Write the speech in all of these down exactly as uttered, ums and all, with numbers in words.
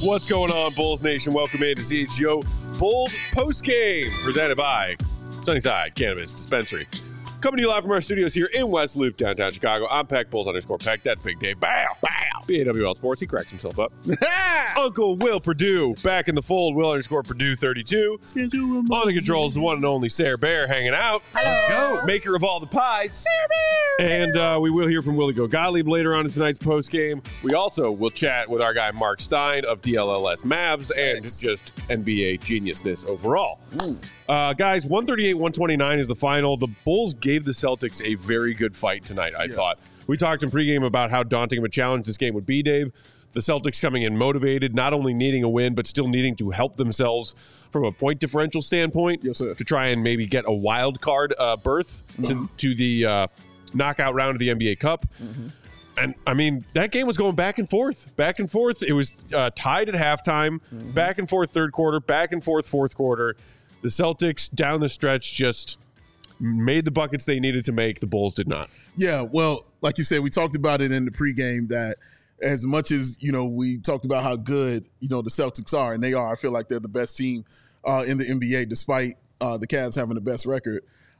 What's going on, Bulls Nation? Welcome in to C H G O Bulls Postgame, presented by Sunnyside Cannabis Dispensary. Coming to you live from our studios here in West Loop, downtown Chicago. I'm Peck, Bulls underscore Peck. That's Big Dave. Bow, bow. B A W L Sports. He cracks himself up. Uncle Will Purdue, back in the fold. Will underscore Purdue thirty-two. On the controls, the one and only Sarah Bear hanging out. Hello. Let's go. Maker of all the pies. And uh, we will hear from Willie Go Gottlieb later on in tonight's postgame. We also will chat with our guy Mark Stein of D L L S Mavs and Thanks. just N B A geniusness overall. Uh, guys, one thirty-eight one twenty-nine is the final. The Bulls gave the Celtics a very good fight tonight, I yeah. thought. We talked in pregame about how daunting of a challenge this game would be, Dave. The Celtics coming in motivated, not only needing a win, but still needing to help themselves from a point differential standpoint yes, sir. to try and maybe get a wild card uh, berth mm-hmm. to, to the uh, knockout round of the N B A Cup. Mm-hmm. And, I mean, that game was going back and forth, back and forth. It was uh, tied at halftime, mm-hmm. back and forth third quarter, back and forth fourth quarter. The Celtics down the stretch just made the buckets they needed to make. The Bulls did not. Yeah, well, like you said, we talked about it in the pregame that as much as, you know, we talked about how good, you know, the Celtics are, and they are, I feel like they're the best team uh, in the N B A despite uh, the Cavs having the best record.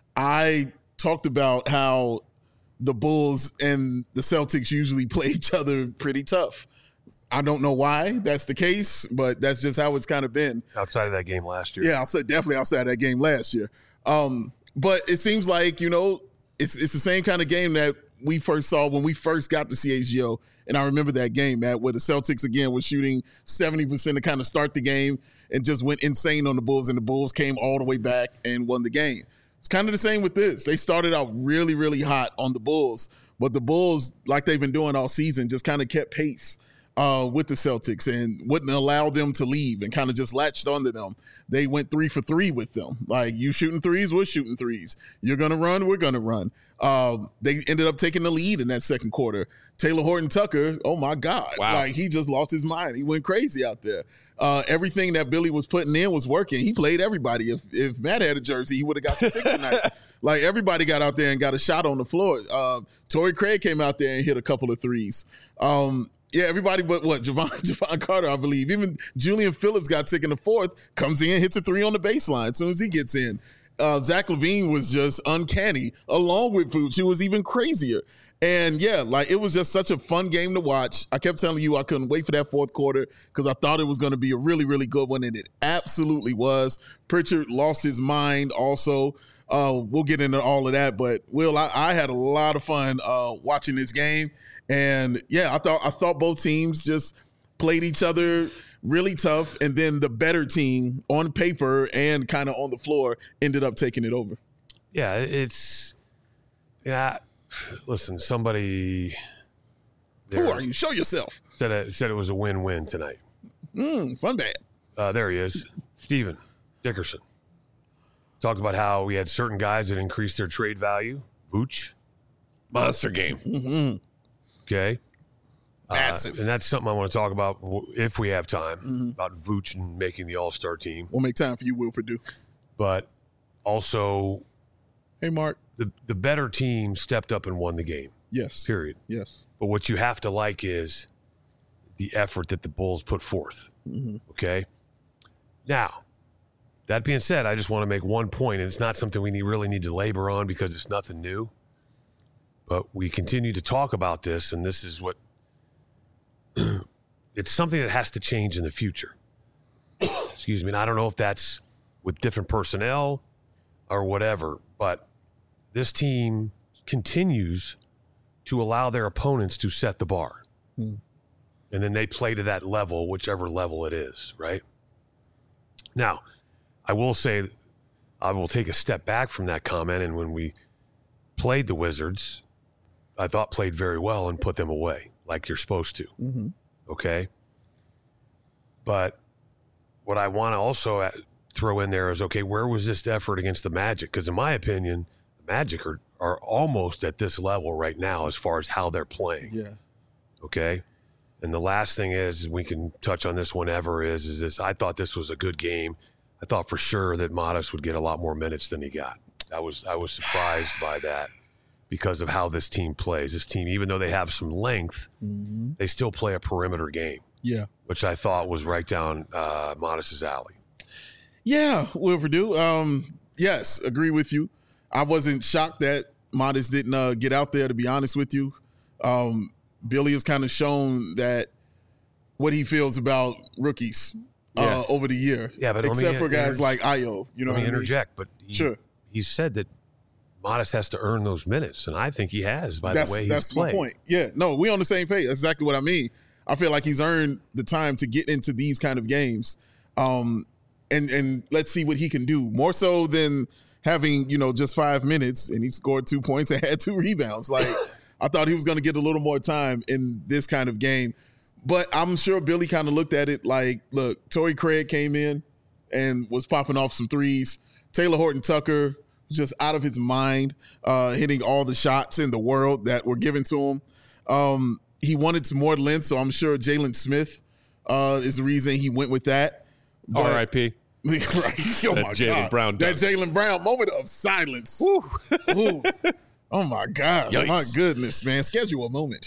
I talked about how the Bulls and the Celtics usually play each other pretty tough. I don't know why that's the case, but that's just how it's kind of been. Outside of that game last year. Yeah, I'll say definitely outside of that game last year. Um, but it seems like, you know, it's it's the same kind of game that we first saw when we first got to C H G O. And I remember that game, Matt, where the Celtics, again, was shooting seventy percent to kind of start the game and just went insane on the Bulls, and the Bulls came all the way back and won the game. It's kind of the same with this. They started out really, really hot on the Bulls, but the Bulls, like they've been doing all season, just kind of kept pace uh, with the Celtics and wouldn't allow them to leave and kind of just latched onto them. They went three for three with them. Like, you shooting threes, we're shooting threes. You're going to run, we're going to run. Uh, they ended up taking the lead in that second quarter. Taylor Horton Tucker, oh, my God. Wow. Like, he just lost his mind. He went crazy out there. Uh, everything that Billy was putting in was working. He played everybody. If if Matt had a jersey, he would have got some ticks tonight. Like, everybody got out there and got a shot on the floor. Uh, Torrey Craig came out there and hit a couple of threes. Um, yeah, everybody but what? Javon, Javon Carter, I believe. Even Julian Phillips got sick in the fourth, comes in, hits a three on the baseline as soon as he gets in. Uh, Zach LaVine was just uncanny, along with Vooch, who was even crazier. And, yeah, like, it was just such a fun game to watch. I kept telling you I couldn't wait for that fourth quarter because I thought it was going to be a really, really good one, and it absolutely was. Pritchard lost his mind also. Uh, we'll get into all of that. But, Will, I, I had a lot of fun uh, watching this game. And, yeah, I thought I thought both teams just played each other really tough, and then the better team on paper and kind of on the floor ended up taking it over. Yeah, it's – yeah – listen, somebody Who are you? Show yourself. Said it, said it was a win-win tonight. Mm, fun bad. Uh, there he is. Steven Dickerson. Talked about how we had certain guys that increased their trade value. Vooch. Monster game. Mm-hmm. Okay. Massive. Uh, and that's something I want to talk about if we have time, mm-hmm. about Vooch and making the all-star team. We'll make time for you, Will Purdue. But also – hey, Mark. The the better team stepped up and won the game. Yes. Period. Yes. But what you have to like is the effort that the Bulls put forth. Mm-hmm. Okay? Now, that being said, I just want to make one point, and it's not something we need, really need to labor on because it's nothing new. But we continue to talk about this, and this is what – it's something that has to change in the future. Excuse me. And I don't know if that's with different personnel or whatever, but this team continues to allow their opponents to set the bar. Hmm. And then they play to that level, whichever level it is, right? Now, I will say, I will take a step back from that comment, and when we played the Wizards, I thought played very well and put them away like you're supposed to, mm-hmm. okay? But what I want to also throw in there is, okay, where was this effort against the Magic? Because in my opinion, the Magic are, are almost at this level right now as far as how they're playing. Yeah. Okay? And the last thing is, we can touch on this whenever, is, is this, I thought this was a good game. I thought for sure that Modest would get a lot more minutes than he got. I was I was surprised by that because of how this team plays. This team, even though they have some length, mm-hmm. they still play a perimeter game. Yeah. which I thought was right down uh, Modest's alley. Yeah, Will Purdue. Um, yes, agree with you. I wasn't shocked that Modest didn't uh, get out there, to be honest with you. Um, Billy has kind of shown that what he feels about rookies uh, Yeah. over the year. Yeah, but let me except for guys inter- like Ayo. You know Let me what I mean? interject, but he, Sure. he said that Modest has to earn those minutes, and I think he has by That's the way he's that's played. my point. Yeah, no, we on the same page. That's exactly what I mean. I feel like he's earned the time to get into these kind of games, um, and and let's see what he can do more so than having you know just five minutes and he scored two points and had two rebounds. Like I thought he was going to get a little more time in this kind of game, but I'm sure Billy kind of looked at it like, look, Torrey Craig came in and was popping off some threes. Taylor Horton Tucker was just out of his mind, uh, hitting all the shots in the world that were given to him. Um, he wanted some more length, so I'm sure Jalen Smith uh, is the reason he went with that. But- R I P right. Oh That my Jaylen God. Brown That dunk. Jaylen Brown moment of silence. Ooh. Oh my gosh. Yikes. My goodness, man. Schedule a moment.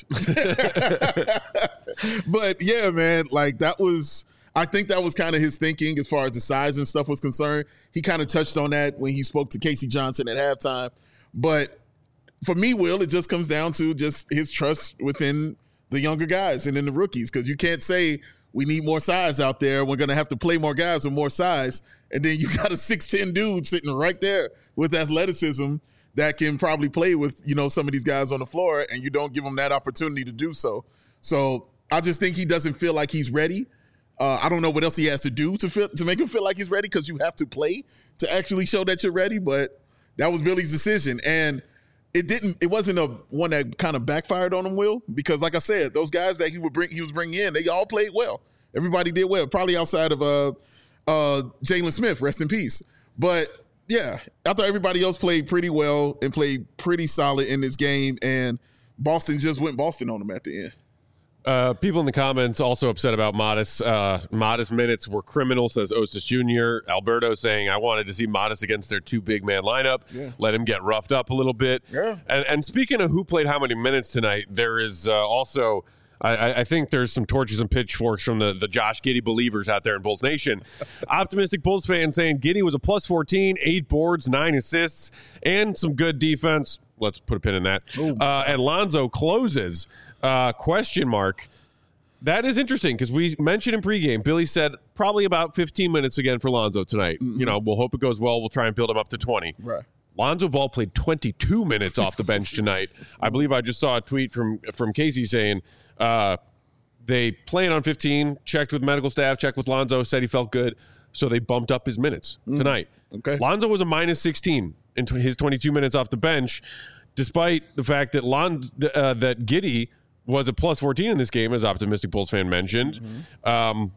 But yeah, man, like that was I think that was kind of his thinking as far as the size and stuff was concerned. He kind of touched on that when he spoke to Casey Johnson at halftime. But for me, Will, it just comes down to just his trust within the younger guys and in the rookies, because you can't say we need more size out there. We're going to have to play more guys with more size. And then you got a six ten dude sitting right there with athleticism that can probably play with, you know, some of these guys on the floor, and you don't give him that opportunity to do so. So I just think he doesn't feel like he's ready. Uh, I don't know what else he has to do to feel, to make him feel like he's ready, because you have to play to actually show that you're ready. But that was Billy's decision. And it didn't, it wasn't a one that kind of backfired on him, Will, because like I said, those guys that he would bring, he was bringing in, they all played well. Everybody did well, probably outside of uh, uh, Jalen Smith, rest in peace. But yeah, I thought everybody else played pretty well and played pretty solid in this game. And Boston just went Boston on them at the end. Uh, people in the comments also upset about Modest. Uh, Modest minutes were criminal, says Ostis Junior Alberto saying, I wanted to see Modest against their two big man lineup. Yeah. Let him get roughed up a little bit. Yeah. And, and speaking of who played how many minutes tonight, there is uh, also, I, I think there's some torches and pitchforks from the, the Josh Giddey believers out there in Bulls Nation. Optimistic Bulls fans saying Giddey was a plus fourteen, eight boards, nine assists, and some good defense. Let's put a pin in that. Uh, and Lonzo closes. Uh, question mark. That is interesting because we mentioned in pregame, Billy said probably about fifteen minutes again for Lonzo tonight. Mm-hmm. You know, we'll hope it goes well. We'll try and build him up to twenty. Right. Lonzo Ball played twenty-two minutes off the bench tonight. I believe I just saw a tweet from from Casey saying uh, they planned on fifteen, checked with medical staff, checked with Lonzo, said he felt good, so they bumped up his minutes mm. tonight. Okay. Lonzo was a minus sixteen in t- his twenty-two minutes off the bench, despite the fact that Lon uh, that Giddey was a plus fourteen in this game, as Optimistic Bulls fan mentioned. Mm-hmm. Um,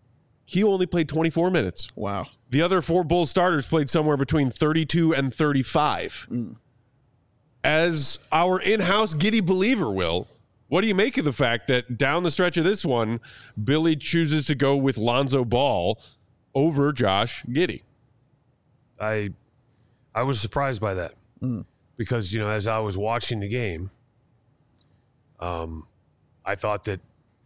he only played twenty-four minutes. Wow. The other four Bulls starters played somewhere between thirty-two and thirty-five. Mm. As our in-house Giddey believer, Will, what do you make of the fact that down the stretch of this one, Billy chooses to go with Lonzo Ball over Josh Giddey? I I was surprised by that mm. because, you know, as I was watching the game, um, I thought that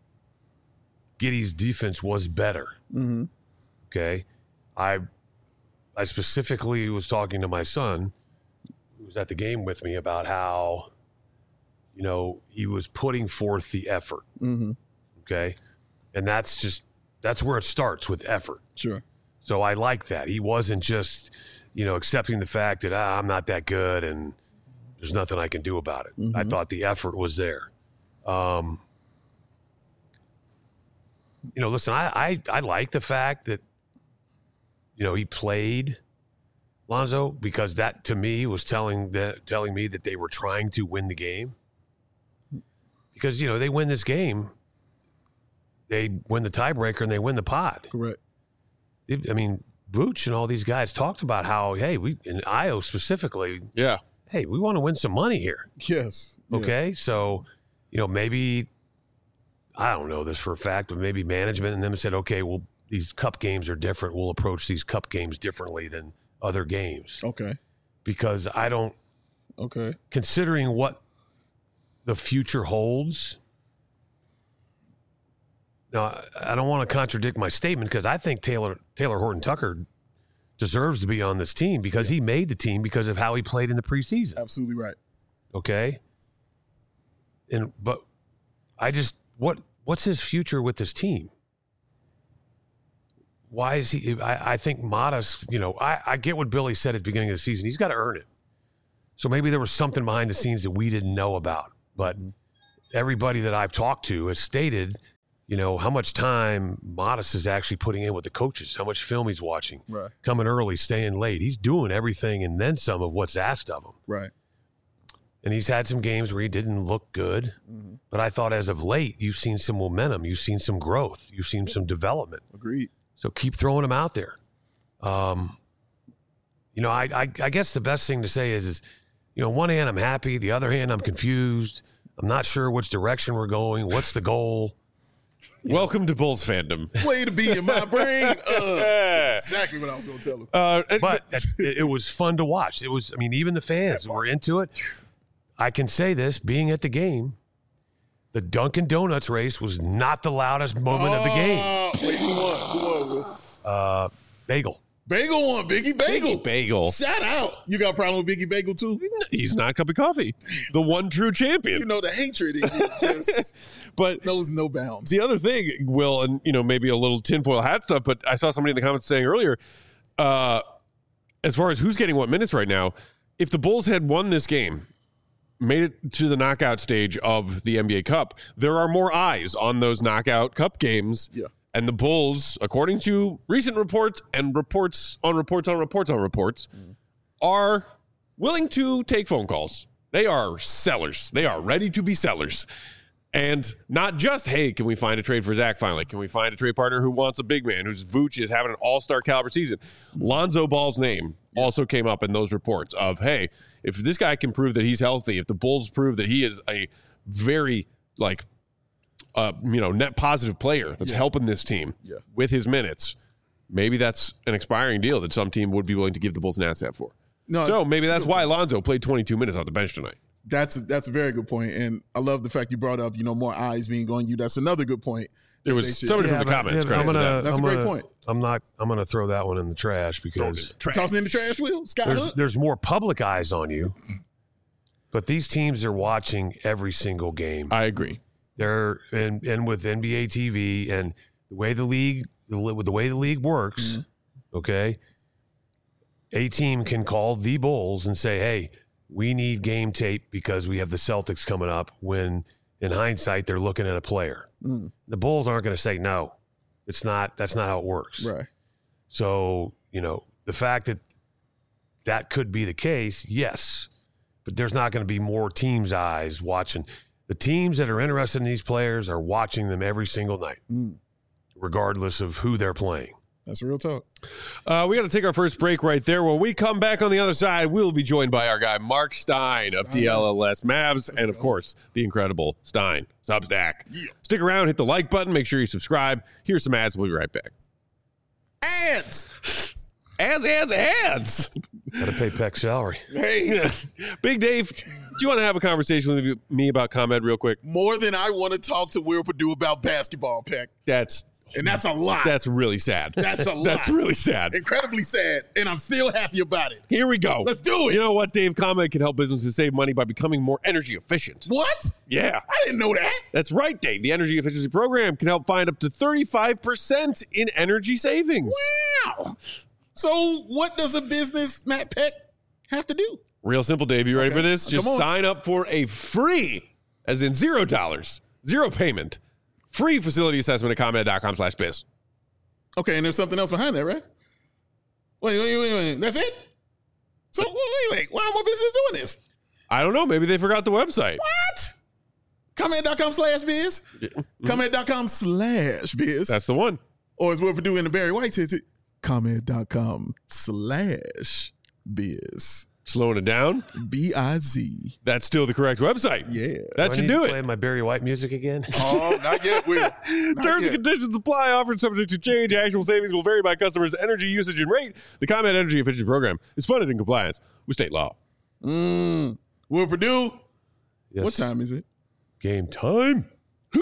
Giddey's defense was better. Mm-hmm. Okay. I I specifically was talking to my son, who was at the game with me, about how, you know, he was putting forth the effort. Mm-hmm. Okay. And that's just, that's where it starts, with effort. Sure. So I like that. He wasn't just, you know, accepting the fact that ah, I'm not that good and there's nothing I can do about it. Mm-hmm. I thought the effort was there. Um, you know, listen, I, I, I like the fact that, you know, he played Lonzo, because that to me was telling the, telling me that they were trying to win the game. Because, you know, they win this game, they win the tiebreaker and they win the pod. Correct. I mean, Vooch and all these guys talked about how, hey, we, in Io specifically, yeah, hey, we want to win some money here. Yes. Okay, yeah. So, you know, maybe, I don't know this for a fact, but maybe management and them said, okay, well, these cup games are different. We'll approach these cup games differently than other games. Okay. Because I don't, okay, considering what the future holds, now, I don't want to contradict my statement because I think Taylor Taylor Horton-Tucker deserves to be on this team because he made the team because of how he played in the preseason. Absolutely right. Okay. And but I just what what's his future with this team? Why is he? I, I think modest. You know, I, I get what Billy said at the beginning of the season. He's got to earn it. So maybe there was something behind the scenes that we didn't know about. But everybody that I've talked to has stated, you know, how much time Modest is actually putting in with the coaches, how much film he's watching, right. coming early, staying late. He's doing everything and then some of what's asked of him. Right. And he's had some games where he didn't look good. Mm-hmm. But I thought as of late, you've seen some momentum. You've seen some growth. You've seen some development. Agreed. So keep throwing him out there. Um, you know, I, I I guess the best thing to say is, is, you know, on one hand, I'm happy. The other hand, I'm confused. I'm not sure which direction we're going. What's the goal? You Welcome know. to Bulls fandom. Way to be in my brain. Uh, that's exactly what I was going to tell him. Uh, but it, it was fun to watch. It was, I mean, even the fans were into it. I can say this, being at the game, the Dunkin' Donuts race was not the loudest moment oh, of the game. Wait, who won? Who won, Will? Uh, Bagel. Bagel won. Biggie Bagel. Biggie Bagel. Shout out. You got a problem with Biggie Bagel, too? He's not a cup of coffee. The one true champion. You know, the hatred in you just but knows no bounds. The other thing, Will, and, you know, maybe a little tinfoil hat stuff, but I saw somebody in the comments saying earlier, uh, as far as who's getting what minutes right now, if the Bulls had won this game, made it to the knockout stage of the N B A Cup, there are more eyes on those knockout cup games. Yeah. And the Bulls, according to recent reports and reports on reports on reports on reports, mm. are willing to take phone calls. They are sellers. They are ready to be sellers. And not just, hey, can we find a trade for Zach finally? Can we find a trade partner who wants a big man, whose Vooch is having an all-star caliber season? Lonzo Ball's name also came up in those reports of, hey, if this guy can prove that he's healthy, if the Bulls prove that he is a very, like, uh, you know, net positive player that's yeah. helping this team yeah. with his minutes, maybe that's an expiring deal that some team would be willing to give the Bulls an asset for. No, so maybe that's why Lonzo played twenty-two minutes off the bench tonight. That's a, that's a very good point, and I love the fact you brought up, you know, more eyes being on you. That's another good point. There was somebody yeah, from the comments. Yeah, I'm gonna, that. That's I'm a great gonna, point. I'm not. I'm going to throw that one in the trash because trash. Tossing in the trash, Will Scott. There's, there's more public eyes on you, but these teams are watching every single game. I agree. They're and and with N B A T V and the way the league, the, with the way the league works, mm-hmm. okay, a team can call the Bulls and say, "Hey, we need game tape because we have the Celtics coming up." When in hindsight, they're looking at a player. Mm. The Bulls aren't going to say no. It's not. That's not how it works. Right. So, you know, the fact that that could be the case, yes, but there's not going to be more teams' eyes watching. The teams that are interested in these players are watching them every single night, mm. regardless of who they're playing. That's real talk. Uh, we got to take our first break right there. When we come back on the other side, we'll be joined by our guy, Mark Stein of D L L S Mavs, Let's and, of go. course, the incredible Stein Substack. Yeah. Stick around, hit the like button, make sure you subscribe. Here's some ads. We'll be right back. Ads! Ads, ads, ads! Got to pay Peck's salary. Hey! Big Dave, do you want to have a conversation with me about ComEd real quick? More than I want to talk to Will Purdue about basketball, Peck. That's... And that's a lot. That's really sad. That's a lot. That's really sad. Incredibly sad. And I'm still happy about it. Here we go. Let's do it. You know what, Dave? ComEd can help businesses save money by becoming more energy efficient. What? Yeah. I didn't know that. That's right, Dave. The Energy Efficiency Program can help find up to thirty-five percent in energy savings. Wow. So what does a business, Matt Peck, have to do? Real simple, Dave. You ready okay. for this? Just sign up for a free, as in zero dollars, zero payment, free facility assessment at ComEd.com slash biz. Okay, and there's something else behind that, right? Wait, wait, wait, wait. That's it? So, wait, wait. Why are more businesses doing this? I don't know. Maybe they forgot the website. What? ComEd.com slash biz? Mm-hmm. ComEd.com slash biz. That's the one. Or as Will Purdue and the Barry White said, ComEd.com slash biz. Slowing it down? B I Z. That's still the correct website. Yeah. That do should I need do to it. Play my Barry White music again? Oh, not yet, Will. Not Terms yet. and conditions apply. Offered subject to change. Actual savings will vary by customers' energy usage and rate. The ComEd Energy Efficiency Program is funded in compliance with state law. Mm. Will Purdue? Yes. What time is it? Game time.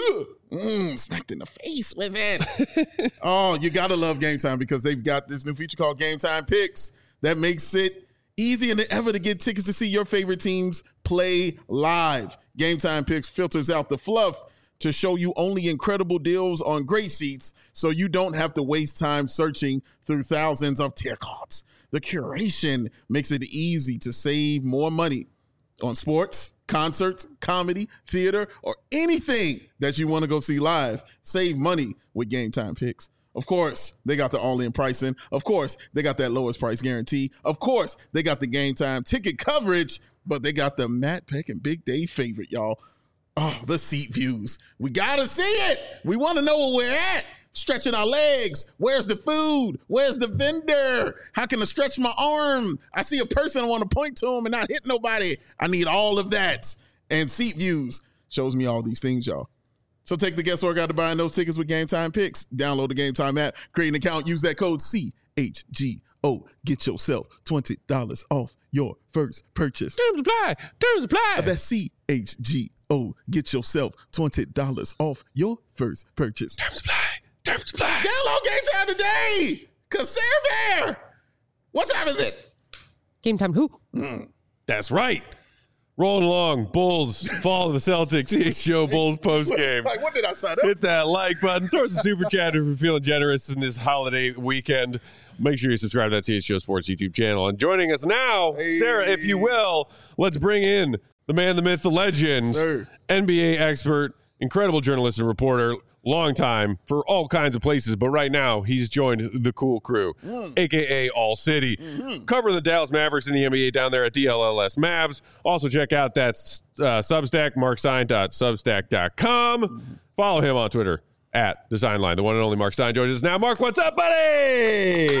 Mm, smacked in the face with it. Oh, you got to love Game Time because they've got this new feature called Game Time Picks that makes it easier than ever to get tickets to see your favorite teams play live. Game Time Picks filters out the fluff to show you only incredible deals on great seats so you don't have to waste time searching through thousands of tier cards. The curation makes it easy to save more money on sports, concerts, comedy, theater, or anything that you want to go see live. Save money with Game Time Picks. Of course, they got the all-in pricing. Of course, they got that lowest price guarantee. Of course, they got the Game Time ticket coverage, but they got the Matt Peck and Big Dave favorite, y'all. Oh, the seat views. We got to see it. We want to know where we're at. Stretching our legs. Where's the food? Where's the vendor? How can I stretch my arm? I see a person I want to point to him and not hit nobody. I need all of that. And Seat Views shows me all these things, y'all. So take the guesswork out of buying those tickets with Game Time Picks. Download the Game Time app, create an account, use that code C H G O. Get yourself twenty dollars off your first purchase. Terms apply. Terms apply. That's C H G O. Get yourself twenty dollars off your first purchase. Terms apply. Terms apply. Download Game Time today. Cause Sarah Bear. What time is it? Game Time who? Mm. That's right. Rolling along. Bulls fall to the Celtics. C H G O Bulls post game. Like, what did I sign up? Hit that like button. Throw us a super chat if you're feeling generous in this holiday weekend. Make sure you subscribe to that C H G O Sports YouTube channel. And joining us now, Hey. Sarah, if you will, let's bring in the man, the myth, the legend, Sir. N B A expert, incredible journalist and reporter, long time for all kinds of places, but right now he's joined the cool crew, Mm. a k a. All City, Mm-hmm. covering the Dallas Mavericks in the N B A down there at D L L S Mavs. Also check out that uh, Substack, mark stein dot substack dot com. Mm-hmm. Follow him on Twitter at Design Line. The one and only Mark Stein joins us now. Mark, what's up, buddy?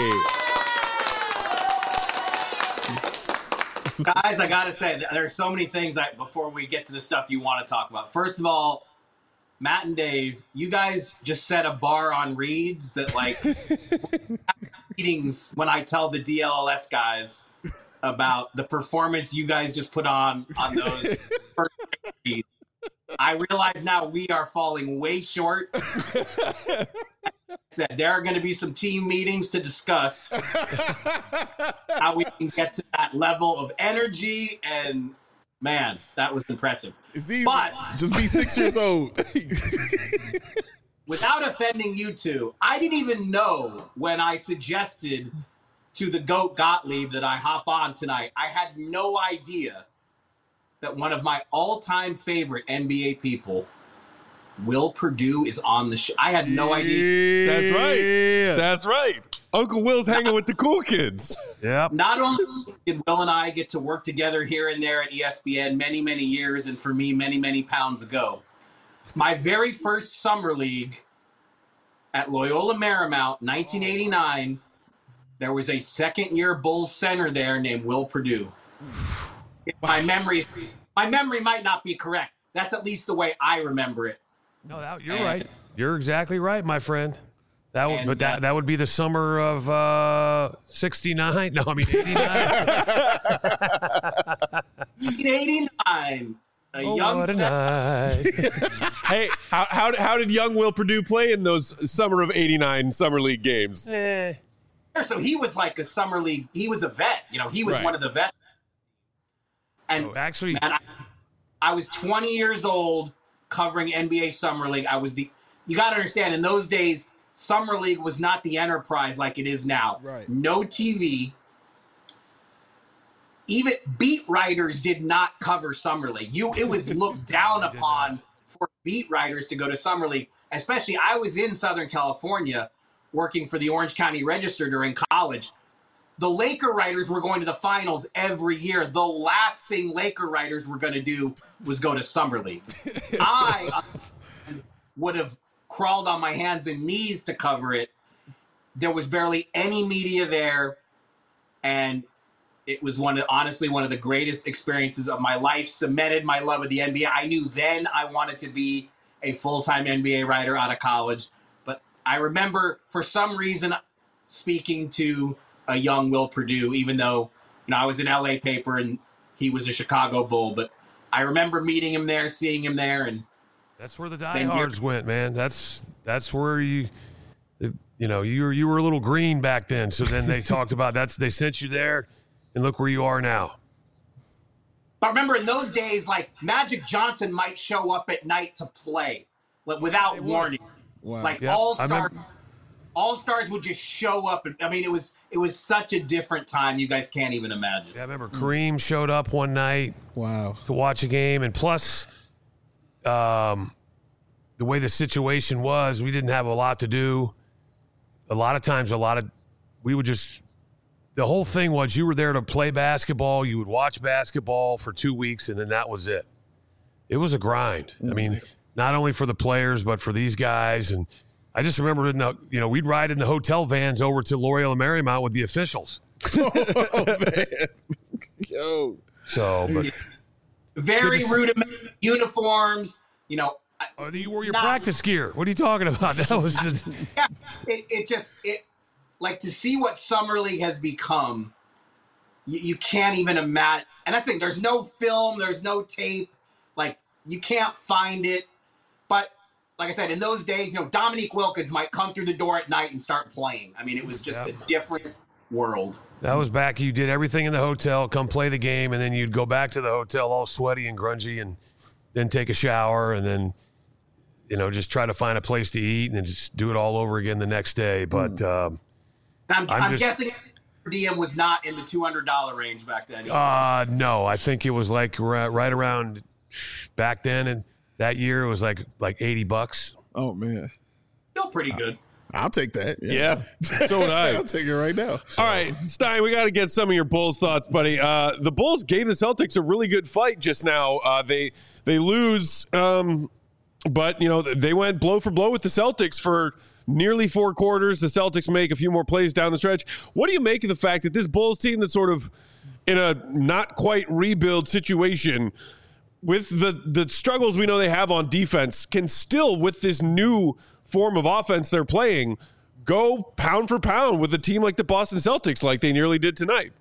Guys, I gotta say, there's so many things I, before we get to the stuff you want to talk about. First of all, Matt and Dave, you guys just set a bar on Reeds that, like, meetings when I tell the D L L S guys about the performance you guys just put on on those first Reeds. I realize now we are falling way short. Said there are going to be some team meetings to discuss how we can get to that level of energy, and man, that was impressive. It's easy. But just be six years old. without offending you two, I didn't even know when I suggested to the GOAT Gottlieb that I hop on tonight. I had no idea that one of my all-time favorite N B A people, Will Perdue, is on the show. I had no idea. That's right. That's right. Uncle Will's hanging with the cool kids. Yep. Not only did Will and I get to work together here and there at E S P N many, many years, and for me, many, many pounds ago, my very first summer league at Loyola Marymount, nineteen eighty-nine, there was a second-year Bulls center there named Will Perdue. My memory, my memory might not be correct. That's at least the way I remember it. No, that, you're And- right. You're exactly right, my friend. That would, And, but that uh, that would be the summer of uh, sixty-nine. No, I mean eighty-nine. nineteen eighty-nine, a Oh, young what a center. night. Hey, how, how, how did young Will Perdue play in those summer of eighty-nine summer league games? Eh. So he was like a summer league. He was a vet. You know, he was Right. one of the vets. And Oh, actually, man, I, I was twenty years old covering N B A Summer League. I was the, you got to understand, in those days, Summer League was not the enterprise like it is now. Right. No T V. Even beat writers did not cover Summer League. You, it was looked down upon for beat writers to go to Summer League. Especially, I was in Southern California working for the Orange County Register during college. The Laker writers were going to the finals every year. The last thing Laker writers were going to do was go to Summer League. I uh, would have crawled on my hands and knees to cover it. There was barely any media there, and it was one of, honestly one of the greatest experiences of my life. Cemented my love of the N B A. I knew then I wanted to be a full-time N B A writer out of college, but I remember for some reason speaking to a young Will Perdue, even though, you know, I was an L A paper and he was a Chicago Bull. But I remember meeting him there, seeing him there, and That's where the diehards went, man. That's that's where you, you know, you were you were a little green back then. So then they talked about that's they sent you there, and look where you are now. But remember, in those days, like Magic Johnson might show up at night to play, like without warning. Wow. Like Yep, all I stars, remember- all stars would just show up. And, I mean, it was it was such a different time. You guys can't even imagine. Yeah, I remember Kareem showed up one night Wow. to watch a game, and plus, um, the way the situation was, we didn't have a lot to do. A lot of times, a lot of we would just. The whole thing was you were there to play basketball. You would watch basketball for two weeks, and then that was it. It was a grind. I mean, not only for the players, but for these guys. And I just remember, in the, you know, we'd ride in the hotel vans over to L'Oreal and Marymount with the officials. Oh, man. Yo. So, but Very rudimentary uniforms. You know, oh, you wore your Not- practice gear. What are you talking about? That was just, yeah, it, it just it like to see what Summer League has become. You, you can't even imagine. And that's the thing. There's no film. There's no tape. Like you can't find it. But like I said, in those days, you know, Dominique Wilkins might come through the door at night and start playing. I mean, it was just Yep. a different world. that was back. You did everything in the hotel, come play the game, and then you'd go back to the hotel all sweaty and grungy, and then take a shower, and then, you know, just try to find a place to eat, and then just do it all over again the next day. But um, And I'm, I'm I'm, just- guessing per diem was not in the two hundred dollars range back then. uh, no, I think it was like ri- right around back then, and that year it was like like eighty bucks. Oh, man. Still pretty good. I'll take that. Yeah, so would I. I'll take it right now. All right, Stein, we got to get some of your Bulls thoughts, buddy. Uh, the Bulls gave the Celtics a really good fight just now. Uh, they they lose, um, but you know they went blow for blow with the Celtics for nearly four quarters. The Celtics make a few more plays down the stretch. What do you make of the fact that this Bulls team that's sort of in a not quite rebuild situation with the the struggles we know they have on defense can still, with this new form of offense they're playing, go pound for pound with a team like the Boston Celtics like they nearly did tonight?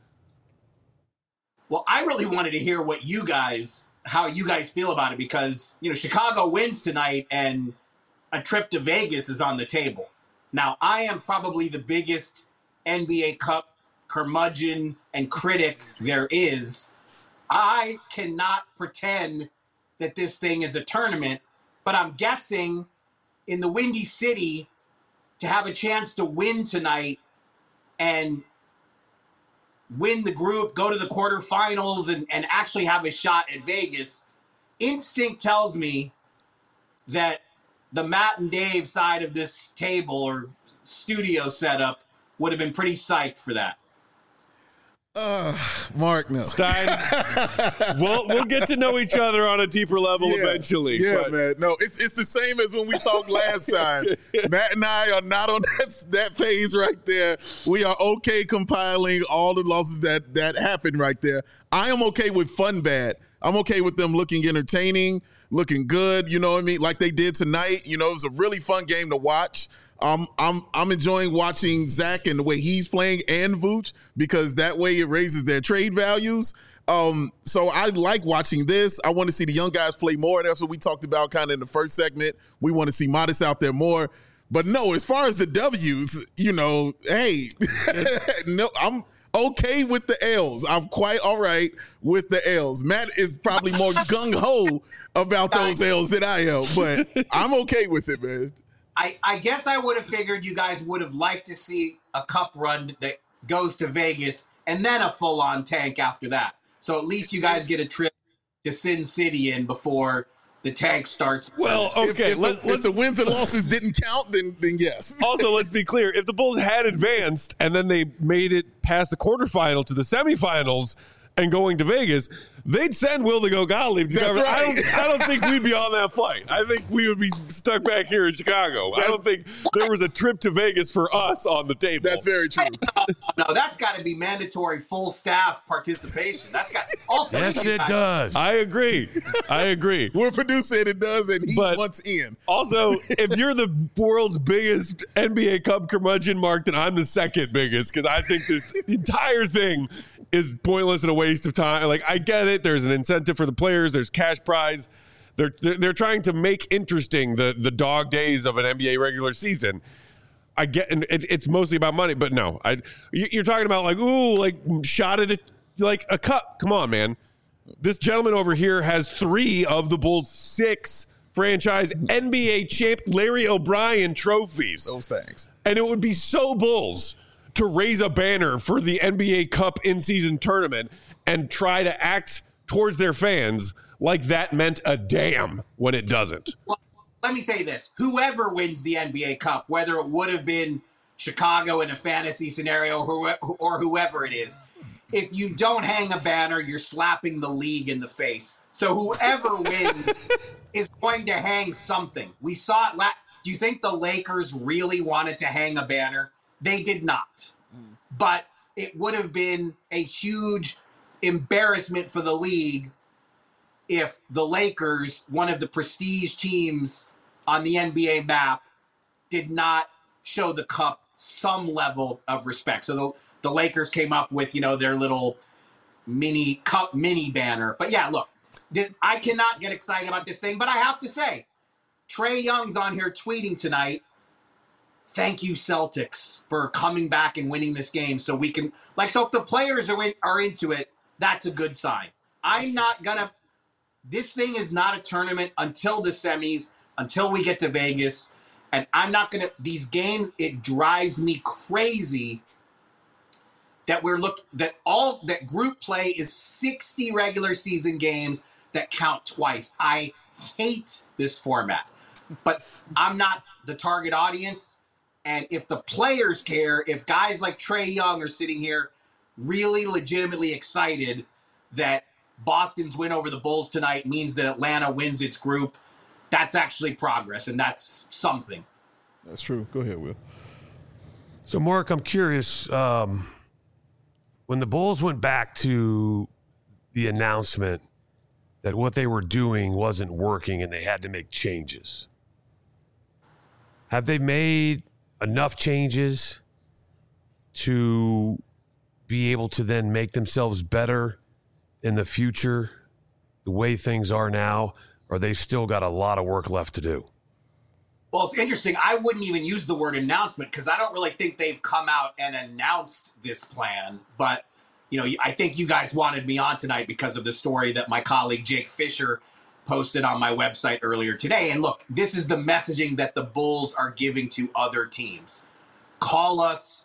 Well, I really wanted to hear what you guys, how you guys feel about it, because, you know, Chicago wins tonight and a trip to Vegas is on the table. Now, I am probably the biggest N B A Cup curmudgeon and critic there is. I cannot pretend that this thing is a tournament, but I'm guessing in the Windy City to have a chance to win tonight and win the group, go to the quarterfinals, and, and actually have a shot at Vegas, instinct tells me that the Matt and Dave side of this table or studio setup would have been pretty psyched for that. Uh, Mark, no. Stein, we'll, we'll get to know each other on a deeper level Yeah. eventually. Yeah, but- man. No, it's it's the same as when we talked last time. Matt and I are not on that, that page right there. We are okay compiling all the losses that that happened right there. I am okay with fun bad. I'm okay with them looking entertaining, looking good. You know what I mean? Like they did tonight. You know, it was a really fun game to watch. Um, I'm I'm enjoying watching Zach and the way he's playing and Vooch, because that way it raises their trade values. Um, so I like watching this. I want to see the young guys play more. That's what we talked about kind of in the first segment. We want to see Modest out there more. But no, as far as the W's, you know, hey, no, I'm okay with the L's. I'm quite all right with the L's. Matt is probably more gung-ho about those L's than I am, but I'm okay with it, man. I, I guess I would have figured you guys would have liked to see a cup run that goes to Vegas and then a full-on tank after that. So at least you guys get a trip to Sin City in before the tank starts. Well, If- okay, if, let, the, if let's the wins and losses didn't count, then then yes. also, let's be clear. If the Bulls had advanced and then they made it past the quarterfinal to the semifinals and going to Vegas, they'd send Will to go Gottlieb. To That's cover. I right. don't. I don't think we'd be on that flight. I think we would be stuck back here in Chicago. I don't think there was a trip to Vegas for us on the table. That's very true. No, that's got to be mandatory full staff participation. That's got all three Yes, of you it guys- does. I agree. I agree. We're producing it does, and he But- wants in. Also, if you're the world's biggest N B A Cup curmudgeon, Mark, then I'm the second biggest, because I think this entire thing is pointless and a waste of time. Like, I get it. There's an incentive for the players. There's cash prize. They're they're, they're trying to make interesting the the dog days of an N B A regular season. I get, and it, it's mostly about money, but no, I you're talking about like ooh, like shot at a, like a cup. Come on, man. This gentleman over here has three of the Bulls' six franchise N B A champ Larry O'Brien trophies. Those things. And it would be so Bulls to raise a banner for the N B A Cup in-season tournament and try to act towards their fans like that meant a damn when it doesn't. Well, let me say this. Whoever wins the N B A Cup, whether it would have been Chicago in a fantasy scenario or, or whoever it is, if you don't hang a banner, you're slapping the league in the face. So whoever wins is going to hang something. We saw it last. Do you think the Lakers really wanted to hang a banner? They did not. Mm. But it would have been a huge embarrassment for the league if the Lakers, one of the prestige teams on the N B A map, did not show the cup some level of respect. So the, the Lakers came up with, you know, their little mini cup mini banner. But yeah, look, I cannot get excited about this thing, but I have to say, Trae Young's on here tweeting tonight, thank you, Celtics, for coming back and winning this game so we can, like, so if the players are, in, are into it, that's a good sign. I'm not going to, this thing is not a tournament until the semis, until we get to Vegas, and I'm not going to, these games, it drives me crazy that we're look, that all, that group play is sixty regular season games that count twice. I hate this format, but I'm not the target audience. And if the players care, if guys like Trae Young are sitting here really legitimately excited that Boston's win over the Bulls tonight means that Atlanta wins its group, that's actually progress, and that's something. That's true. Go ahead, Will. So, Mark, I'm curious, um, when the Bulls went back to the announcement that what they were doing wasn't working and they had to make changes, have they made enough changes to be able to then make themselves better in the future the way things are now, or they've still got a lot of work left to do? Well, it's interesting. I wouldn't even use the word announcement because I don't really think they've come out and announced this plan. But, you know, I think you guys wanted me on tonight because of the story that my colleague Jake Fisher posted on my website earlier today. And look, this is the messaging that the Bulls are giving to other teams. Call us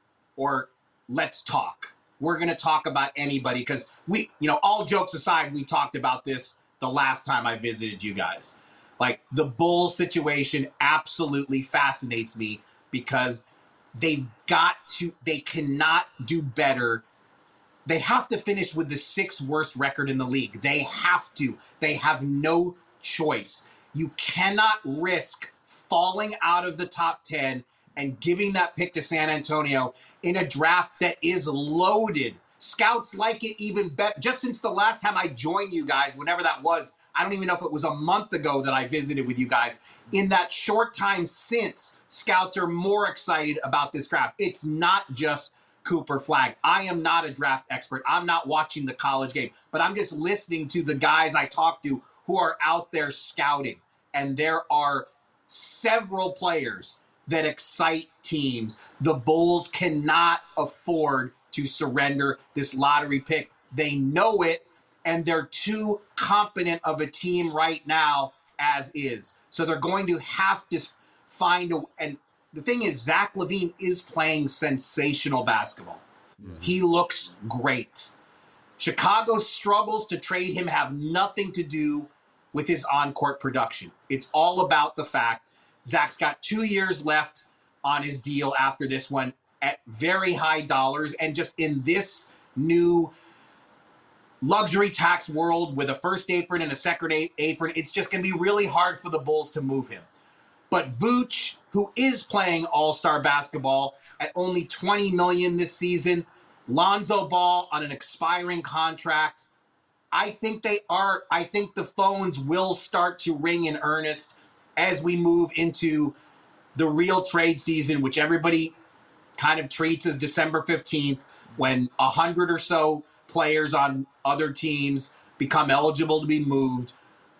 or let's talk. We're going to talk about anybody because we, you know, all jokes aside, we talked about this the last time I visited you guys. Like, the Bulls situation absolutely fascinates me because they've got to, they cannot do better. They have to finish with the sixth worst record in the league. They have to. They have no choice. You cannot risk falling out of the top ten and giving that pick to San Antonio in a draft that is loaded. Scouts like it even better. Just since the last time I joined you guys, whenever that was, I don't even know if it was a month ago that I visited with you guys. In that short time since, scouts are more excited about this draft. It's not just Cooper Flagg. I am not a draft expert. I'm not watching the college game, but I'm just listening to the guys I talk to who are out there scouting. And there are several players that excite teams. The Bulls cannot afford to surrender this lottery pick. They know it, and they're too competent of a team right now as is. So they're going to have to find a, and the thing is, Zach LaVine is playing sensational basketball. Mm-hmm. He looks great. Chicago's struggles to trade him have nothing to do with his on-court production. It's all about the fact Zach's got two years left on his deal after this one at very high dollars. And just in this new luxury tax world with a first apron and a second apron, it's just going to be really hard for the Bulls to move him. But Vooch, who is playing all-star basketball at only twenty million dollars this season, Lonzo Ball on an expiring contract, I think they are, I think the phones will start to ring in earnest as we move into the real trade season, which everybody kind of treats as December fifteenth, when a hundred or so players on other teams become eligible to be moved.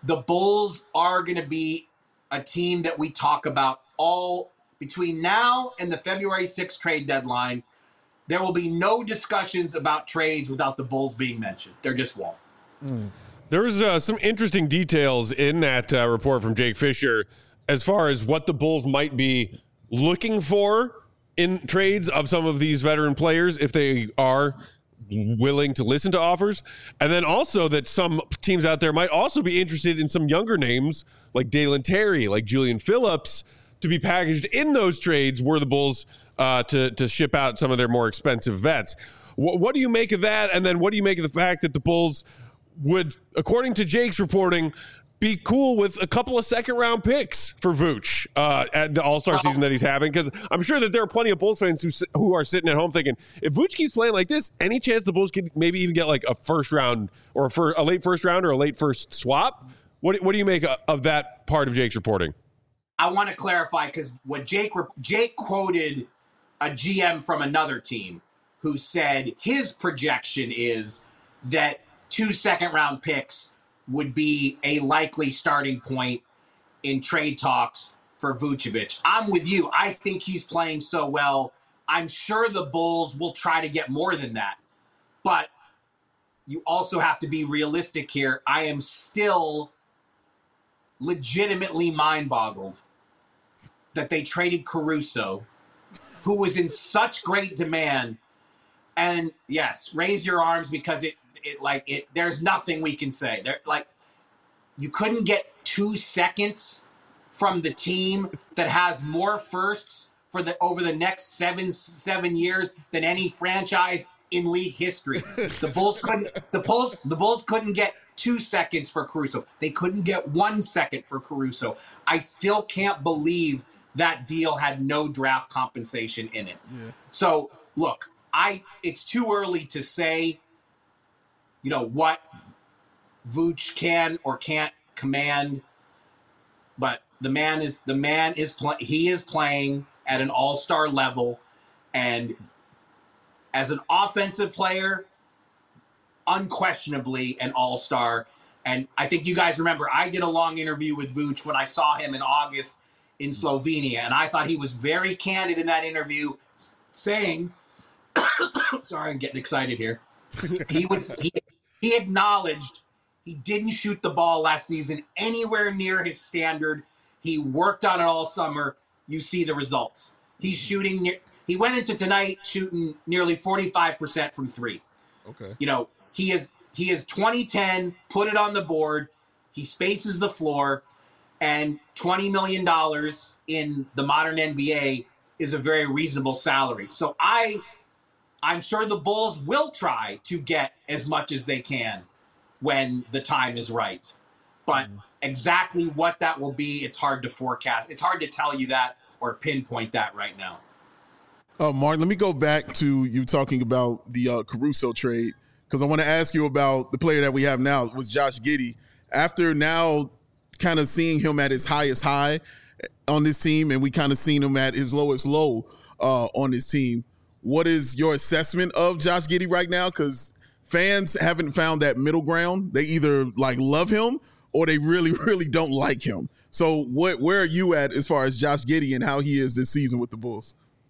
the Bulls are going to be a team that we talk about all between now and the February sixth trade deadline. There will be no discussions about trades without the Bulls being mentioned. There just won't. Mm. There's uh, some interesting details in that uh, report from Jake Fisher as far as what the Bulls might be looking for in trades of some of these veteran players if they are willing to listen to offers. And then also that some teams out there might also be interested in some younger names like Dalen Terry, like Julian Phillips, to be packaged in those trades were the Bulls uh, to, to ship out some of their more expensive vets. W- what do you make of that? And then what do you make of the fact that the Bulls would, according to Jake's reporting, be cool with a couple of second round picks for Vooch uh, at the All-Star season that he's having? Because I'm sure that there are plenty of Bulls fans who who are sitting at home thinking, if Vooch keeps playing like this, any chance the Bulls could maybe even get like a first round or a, fir- a late first round or a late first swap? What what do you make of that part of Jake's reporting? I want to clarify because what Jake Jake quoted a G M from another team who said his projection is that two second round picks would be a likely starting point in trade talks for Vucevic. I'm with you. I think he's playing so well. I'm sure the Bulls will try to get more than that. But you also have to be realistic here. I am still legitimately mind-boggled that they traded Caruso, who was in such great demand. And yes, raise your arms because it It like it. There's nothing we can say. There, like, you couldn't get two seconds from the team that has more firsts for the over the next seven seven years than any franchise in league history. The Bulls couldn't. The Bulls. The Bulls couldn't get two seconds for Caruso. They couldn't get one second for Caruso. I still can't believe that deal had no draft compensation in it. Yeah. So look, I. It's too early to say, you know, what Vooch can or can't command, but the man is the man is playing. He is playing at an all-star level, and as an offensive player, unquestionably an all-star. And I think you guys remember I did a long interview with Vooch when I saw him in August in Slovenia, and I thought he was very candid in that interview, saying, "Sorry, I'm getting excited here." He was he, he acknowledged he didn't shoot the ball last season anywhere near his standard. He worked on it all summer. You see the results. He's shooting near, he went into tonight shooting nearly forty-five percent from three. Okay. You know, he is he is twenty ten, put it on the board. He spaces the floor, and twenty million dollars in the modern N B A is a very reasonable salary. So I I'm sure the Bulls will try to get as much as they can when the time is right. But exactly what that will be, it's hard to forecast. It's hard to tell you that or pinpoint that right now. Uh, Mark, let me go back to you talking about the uh, Caruso trade, because I want to ask you about the player that we have now, was Josh Giddey. After now kind of seeing him at his highest high on this team, and we kind of seen him at his lowest low uh, on this team, what is your assessment of Josh Giddey right now? Because fans haven't found that middle ground. They either like love him or they really, really don't like him. So what, where are you at as far as Josh Giddey and how he is this season with the Bulls?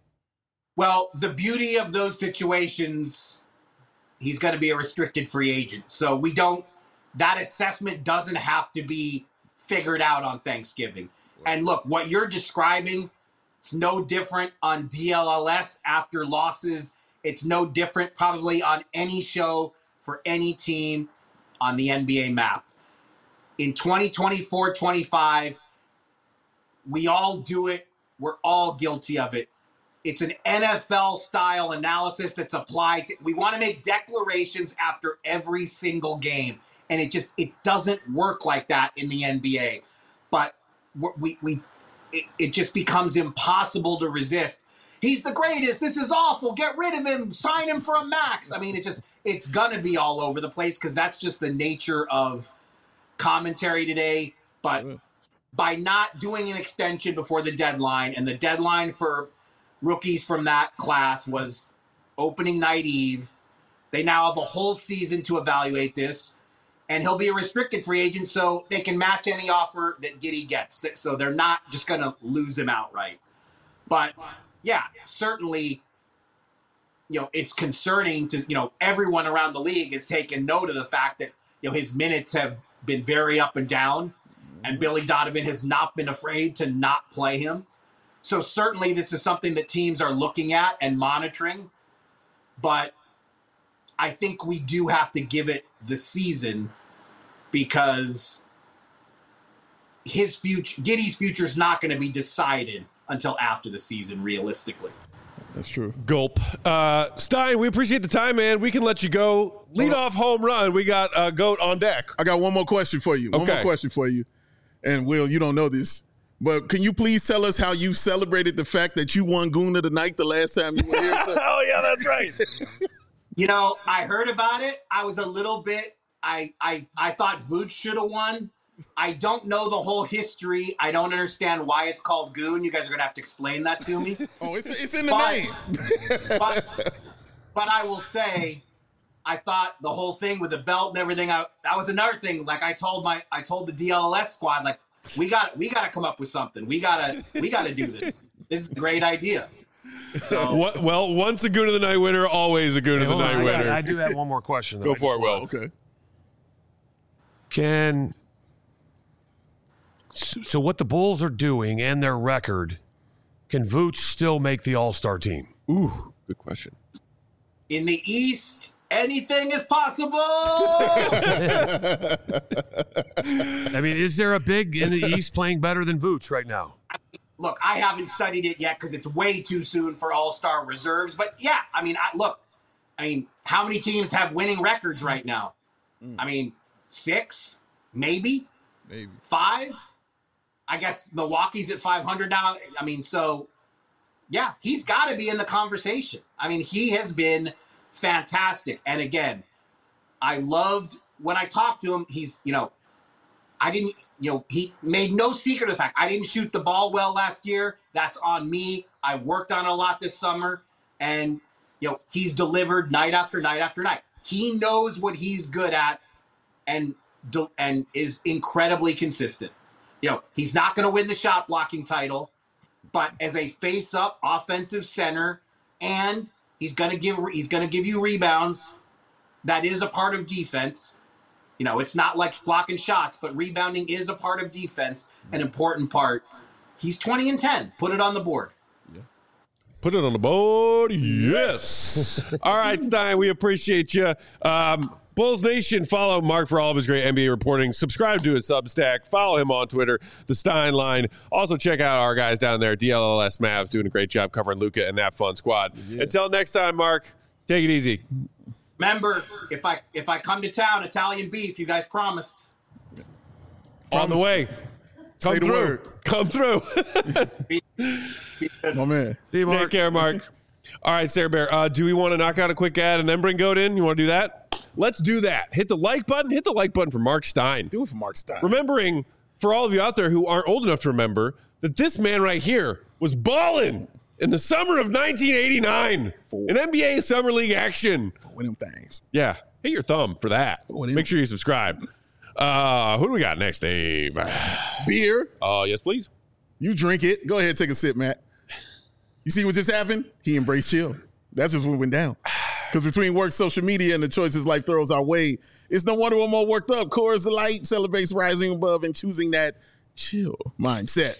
Well, the beauty of those situations, he's going to be a restricted free agent. So we don't, that assessment doesn't have to be figured out on Thanksgiving. And look, what you're describing, it's no different on D L L S after losses. It's no different probably on any show for any team on the N B A map. In twenty twenty-four twenty-five, we all do it. We're all guilty of it. It's an N F L-style analysis that's applied to, we want to make declarations after every single game. And it just, it doesn't work like that in the N B A. But we, we, it, it just becomes impossible to resist. He's the greatest. This is awful. Get rid of him. Sign him for a max. I mean, it just, it's going to be all over the place because that's just the nature of commentary today. But by not doing an extension before the deadline, and the deadline for rookies from that class was opening night eve, they now have a whole season to evaluate this. and he'll be a restricted free agent, so they can match any offer that Giddey gets. So they're not just going to lose him outright. But, yeah, certainly, you know, it's concerning to, you know, everyone around the league has taken note of the fact that, you know, his minutes have been very up and down, and Billy Donovan has not been afraid to not play him. So certainly this is something that teams are looking at and monitoring. But I think we do have to give it the season because his future, Giddey's future is not going to be decided until after the season, realistically. That's true. Gulp. Uh, Stein, we appreciate the time, man. We can let you go. Lead off home run. We got a uh, goat on deck. I got one more question for you. One okay. more question for you. And Will, you don't know this, but can you please tell us how you celebrated the fact that you won Goon of the Night the last time you were here? Oh, yeah, that's right. You know, I heard about it. I was a little bit, I I, I thought Vooch should have won. I don't know the whole history. I don't understand why it's called Goon. You guys are going to have to explain that to me. Oh, it's, it's in the but, name. but, but I will say, I thought the whole thing with the belt and everything, I, that was another thing. Like I told my, I told the D L L S squad, like, we got, we got to come up with something. We got to, we got to do this. This is a great idea. So, what, well, once a Goon of the Night winner, always a Goon Hey, of the hold Night on, I winner. got- I do have one more question. though. Go I for just it, Will. want- Okay. Can so what the Bulls are doing and their record, can Vooch still make the All-Star team? Ooh, good question. in the East, anything is possible. I mean, is there a big in the East playing better than Vooch right now? Look, I haven't studied it yet because it's way too soon for all-star reserves. But yeah, I mean, I, look, I mean, how many teams have winning records right now? Mm. I mean, six, maybe, maybe five. I guess Milwaukee's at five hundred now. I mean, so yeah, he's got to be in the conversation. I mean, he has been fantastic. And again, I loved when I talked to him. He's, you know, I didn't, you know, he made no secret of the fact I didn't shoot the ball well last year. That's on me. I worked on it a lot this summer. And, you know, he's delivered night after night after night. He knows what he's good at and, and is incredibly consistent. You know, he's not going to win the shot blocking title, but as a face-up offensive center, and he's going to give he's going to give you rebounds. That is a part of defense. You know, it's not like blocking shots, but rebounding is a part of defense, an important part. He's twenty and ten. Put it on the board. Yeah. Put it on the board. Yes. All right, Stein, we appreciate you. Um, Bulls Nation, follow Mark for all of his great N B A reporting. Subscribe to his Substack. Follow him on Twitter, The Stein Line. Also, check out our guys down there, D L L S Mavs, doing a great job covering Luka and that fun squad. Yeah. Until next time, Mark, take it easy. Remember, if I if I come to town, Italian beef, you guys promised. On the way. Come Say the through. word. Come through. Be, be My man. See you, Mark. Take care, Mark. All right, Sarah Bear, uh, do we want to knock out a quick ad and then bring Goat in? You want to do that? Let's do that. Hit the like button. Hit the like button for Mark Stein. Do it for Mark Stein. Remembering, for all of you out there who aren't old enough to remember, that this man right here was balling in the summer of nineteen eighty-nine Four. in N B A Summer League action. Win them things. Yeah, hit your thumb for that. What Make sure you subscribe. Uh, who do we got next, Dave? Beer. Uh, yes, please. You drink it. Go ahead, take a sip, Matt. You see what just happened? He embraced chill. That's just what went down. Because between work, social media, and the choices life throws our way, it's no wonder we're more worked up. Coors Light celebrates rising above and choosing that chill mindset.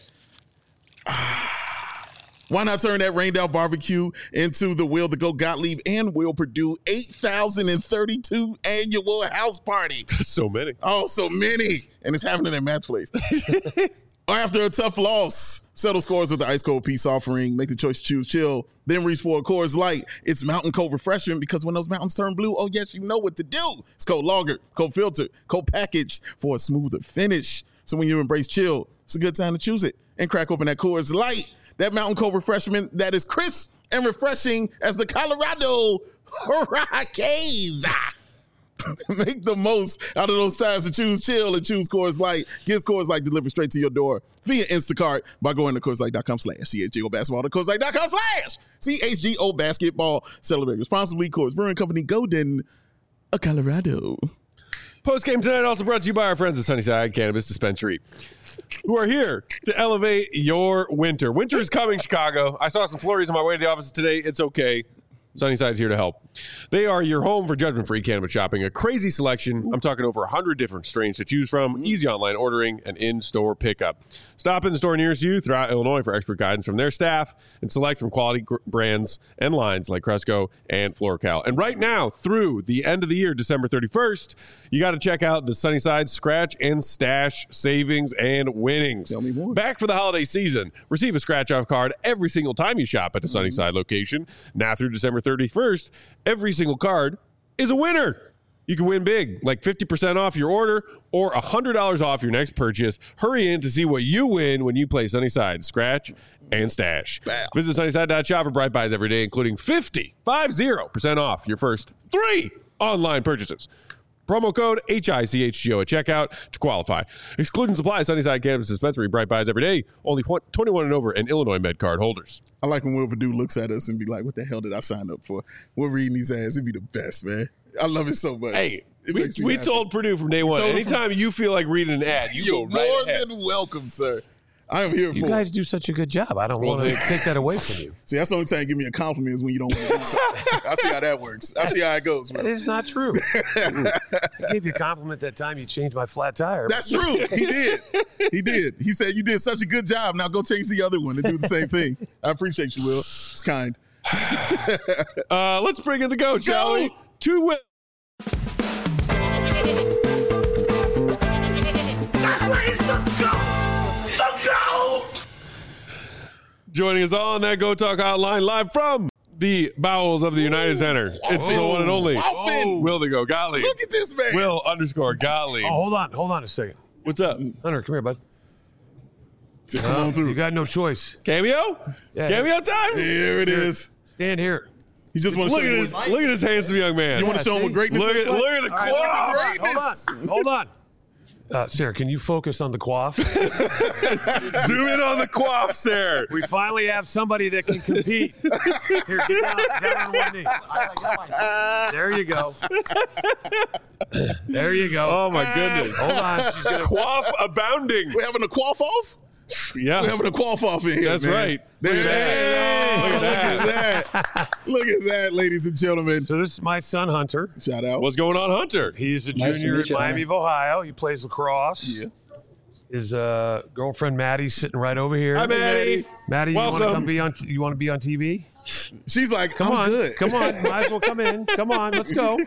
Why not turn that rained out barbecue into the Will the Go Gottlieb and Will Purdue eight thousand thirty-two annual house party? So many. Oh, so many. And it's happening at Matt's place. Or after a tough loss, settle scores with the ice cold peace offering. Make the choice to choose chill. Then reach for a Coors Light. It's mountain cold refreshing because when those mountains turn blue, oh yes, you know what to do. It's cold lagered, cold filtered, cold packaged for a smoother finish. So when you embrace chill, it's a good time to choose it. And crack open that Coors Light. That mountain cold refreshment that is crisp and refreshing as the Colorado Hurricanes. Make the most out of those times to choose chill and choose Coors Light. Get Coors Light delivered straight to your door via Instacart by going to Coors Light dot com slash C H G O basketball to Coors Light dot com slash C H G O basketball. Celebrate responsibly. Coors Brewing Company, Golden, Colorado. Post game tonight also brought to you by our friends at Sunnyside Cannabis Dispensary, who are here to elevate your winter. Winter is coming, Chicago. I saw some flurries on my way to the office today. It's okay. Sunnyside's here to help. They are your home for judgment-free cannabis shopping. A crazy selection. I'm talking over one hundred different strains to choose from. Easy online ordering and in-store pickup. Stop in the store nearest you throughout Illinois for expert guidance from their staff and select from quality gr- brands and lines like Cresco and FloraCal. And right now, through the end of the year, December thirty-first, you got to check out the Sunnyside Scratch and Stash savings and winnings. Tell me more. Back for the holiday season. Receive a scratch-off card every single time you shop at the Sunnyside location. Now through December thirty-first, every single card is a winner. You can win big, like fifty percent off your order or one hundred dollars off your next purchase. Hurry in to see what you win when you play Sunnyside Scratch and Stash. Wow. Visit Sunnyside dot shop for Bright Buys every day, including fifty percent off your first three online purchases. Promo code H I C H G O at checkout to qualify. Exclusion supply, Sunnyside Cannabis Dispensary, Bright Buys every day. Only twenty-one and over and Illinois Med card holders. I like when Will Purdue looks at us and be like, what the hell did I sign up for? We're reading these ads. It'd be the best, man. I love it so much. Hey, It we, makes me we happy. told Purdue from day one, told them anytime you feel like reading an ad, you You're go right more ahead. than welcome, sir. I am here You for guys it. do such a good job. I don't Well, want to thank- take that away from you. See, that's the only time you give me a compliment is when you don't want to do something. I see how that works. I see how it goes, That man. is not true. I gave you a compliment that time you changed my flat tire. That's true. He did. He did. He said you did such a good job. Now go change the other one and do the same thing. I appreciate you, Will. It's kind. Uh, let's bring in the goat, shall Go. we? To Will. That's where he's the goat! The goat! Joining us on that Go Talk hotline live from the bowels of the United Center. It's the one and only Waffin. Will the Go Gottlieb. Look at this man. Will underscore Gottlieb. Oh, hold on. Hold on a second. What's up? Hunter, come here, bud. Come on You through. got no choice. Cameo? Yeah. Cameo time? Here it is. Stand here. He just want to Look show at you this. what, Look at this handsome young man. you want to show him what greatness Look looks at like? look at the All right, quality. hold on, greatness. Hold on. Hold on. Uh, Sarah, can you focus on the quaff? Zoom in on the quaff, sir. We finally have somebody that can compete. Here, get down, down on one knee. There you go. There you go. Oh my goodness. Hold on. She's gonna. Quaff abounding. We're having a quaff off? Yeah. We're having a quaff off in here. That's man. right. There, Look at that. Look Look at at that. Look at that, ladies and gentlemen. So this is my son Hunter. Shout out. What's going on, Hunter? He's a Nice to junior meet at you, Miami of Ohio. He plays lacrosse. Yeah. His uh, girlfriend Maddie's sitting right over here. Hi, Maddie. Maddie, you want to Welcome. come be on? T- you want to be on T V? She's like, Come I'm on, good. come on. Might as well come in. Come on, let's go.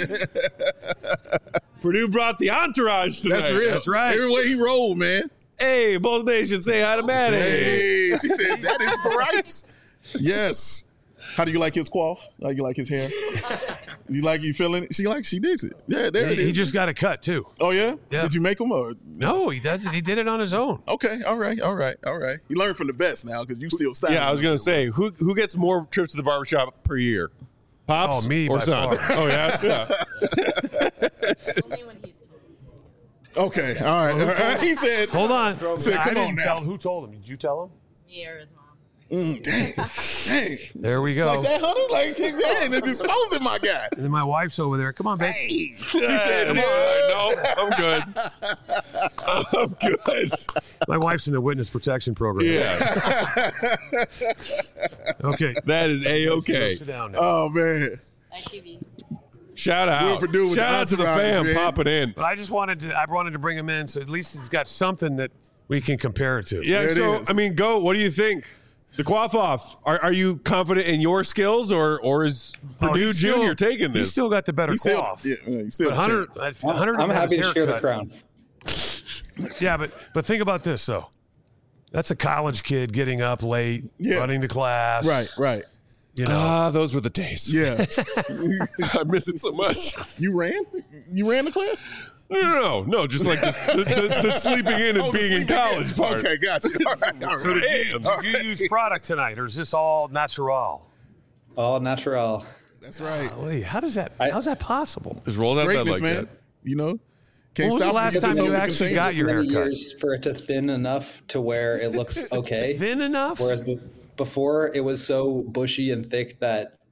Purdue brought the entourage tonight. That's real. That's right. Every way he rolled, man. Hey, both nations say hi to Maddie. Hey, she said, that is bright. Yes. How do you like his quaff? How do you like his hair? You like you feeling it? She like she digs it. Yeah, there it He, is. he just got a cut too. oh yeah? Yeah. Did you make him or No, he doesn't. He did it on his own. okay? All right, all right, all right. You learn from the best now because you still styling. Yeah, I was gonna say, who who gets more trips to the barbershop per year? Pops Oh, me or by son? far. Oh yeah, yeah. Only when he's Okay, all right. All right. He said, Hold on. Said, I come didn't on now. tell him. Who told him? Did you tell him? me or his mom. mm, "Dang, dang." There we go. Like that, honey. Like, dang, they're disposing my guy. And then my wife's over there. Come on, babe. Hey, she said, Come "Yeah." on, no, I'm good. I'm good. My wife's in the witness protection program. Yeah, Okay. that is a okay. Sit down now. Oh man. I T V. Shout out, Purdue with shout the out to the entourage, fam man. popping in. But I just wanted to. I wanted to bring him in, so at least he's got something that we can compare it to. Yeah, There it so is. I mean, go. What do you think? The quaff off. Are, are you confident in your skills, or or is Oh, Purdue he's still- Junior taking He's this? still got the better He still, quaff. yeah, he still. But Hunter, check. I- Hunter I'm didn't have happy his to share the haircut. crown. Yeah, but but think about this though. That's a college kid getting up late, Yeah. running to class. Right, right. You know. Ah, those were the days. Yeah. I miss it so much. You ran? You ran the class? No, no, no, no. Just like this, the, the, the sleeping in and Oh, the being in sleeping college part. Okay, got you. All right, all so right. did you, did you use product tonight, or is this all natural? All natural. That's right. Wait, how does that? I- how's that possible? Just roll that bed Greatness, like man. that. You know? Can't When was the stop last it. time It's you open actually container. got your Many haircut? years for it to thin enough to where it looks okay. Thin enough? Whereas be- before it was so bushy and thick that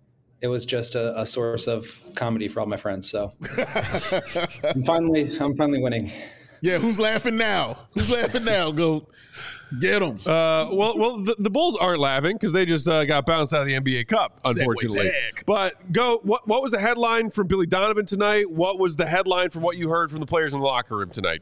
it was just a, a source of comedy for all my friends. So I'm finally, I'm finally winning. Yeah, who's laughing now? Who's laughing now? Go get them. Uh, well, well, the, the Bulls aren't laughing because they just uh, got bounced out of the N B A Cup, unfortunately. But go. What what was the headline from Billy Donovan tonight? What was the headline from what you heard from the players in the locker room tonight?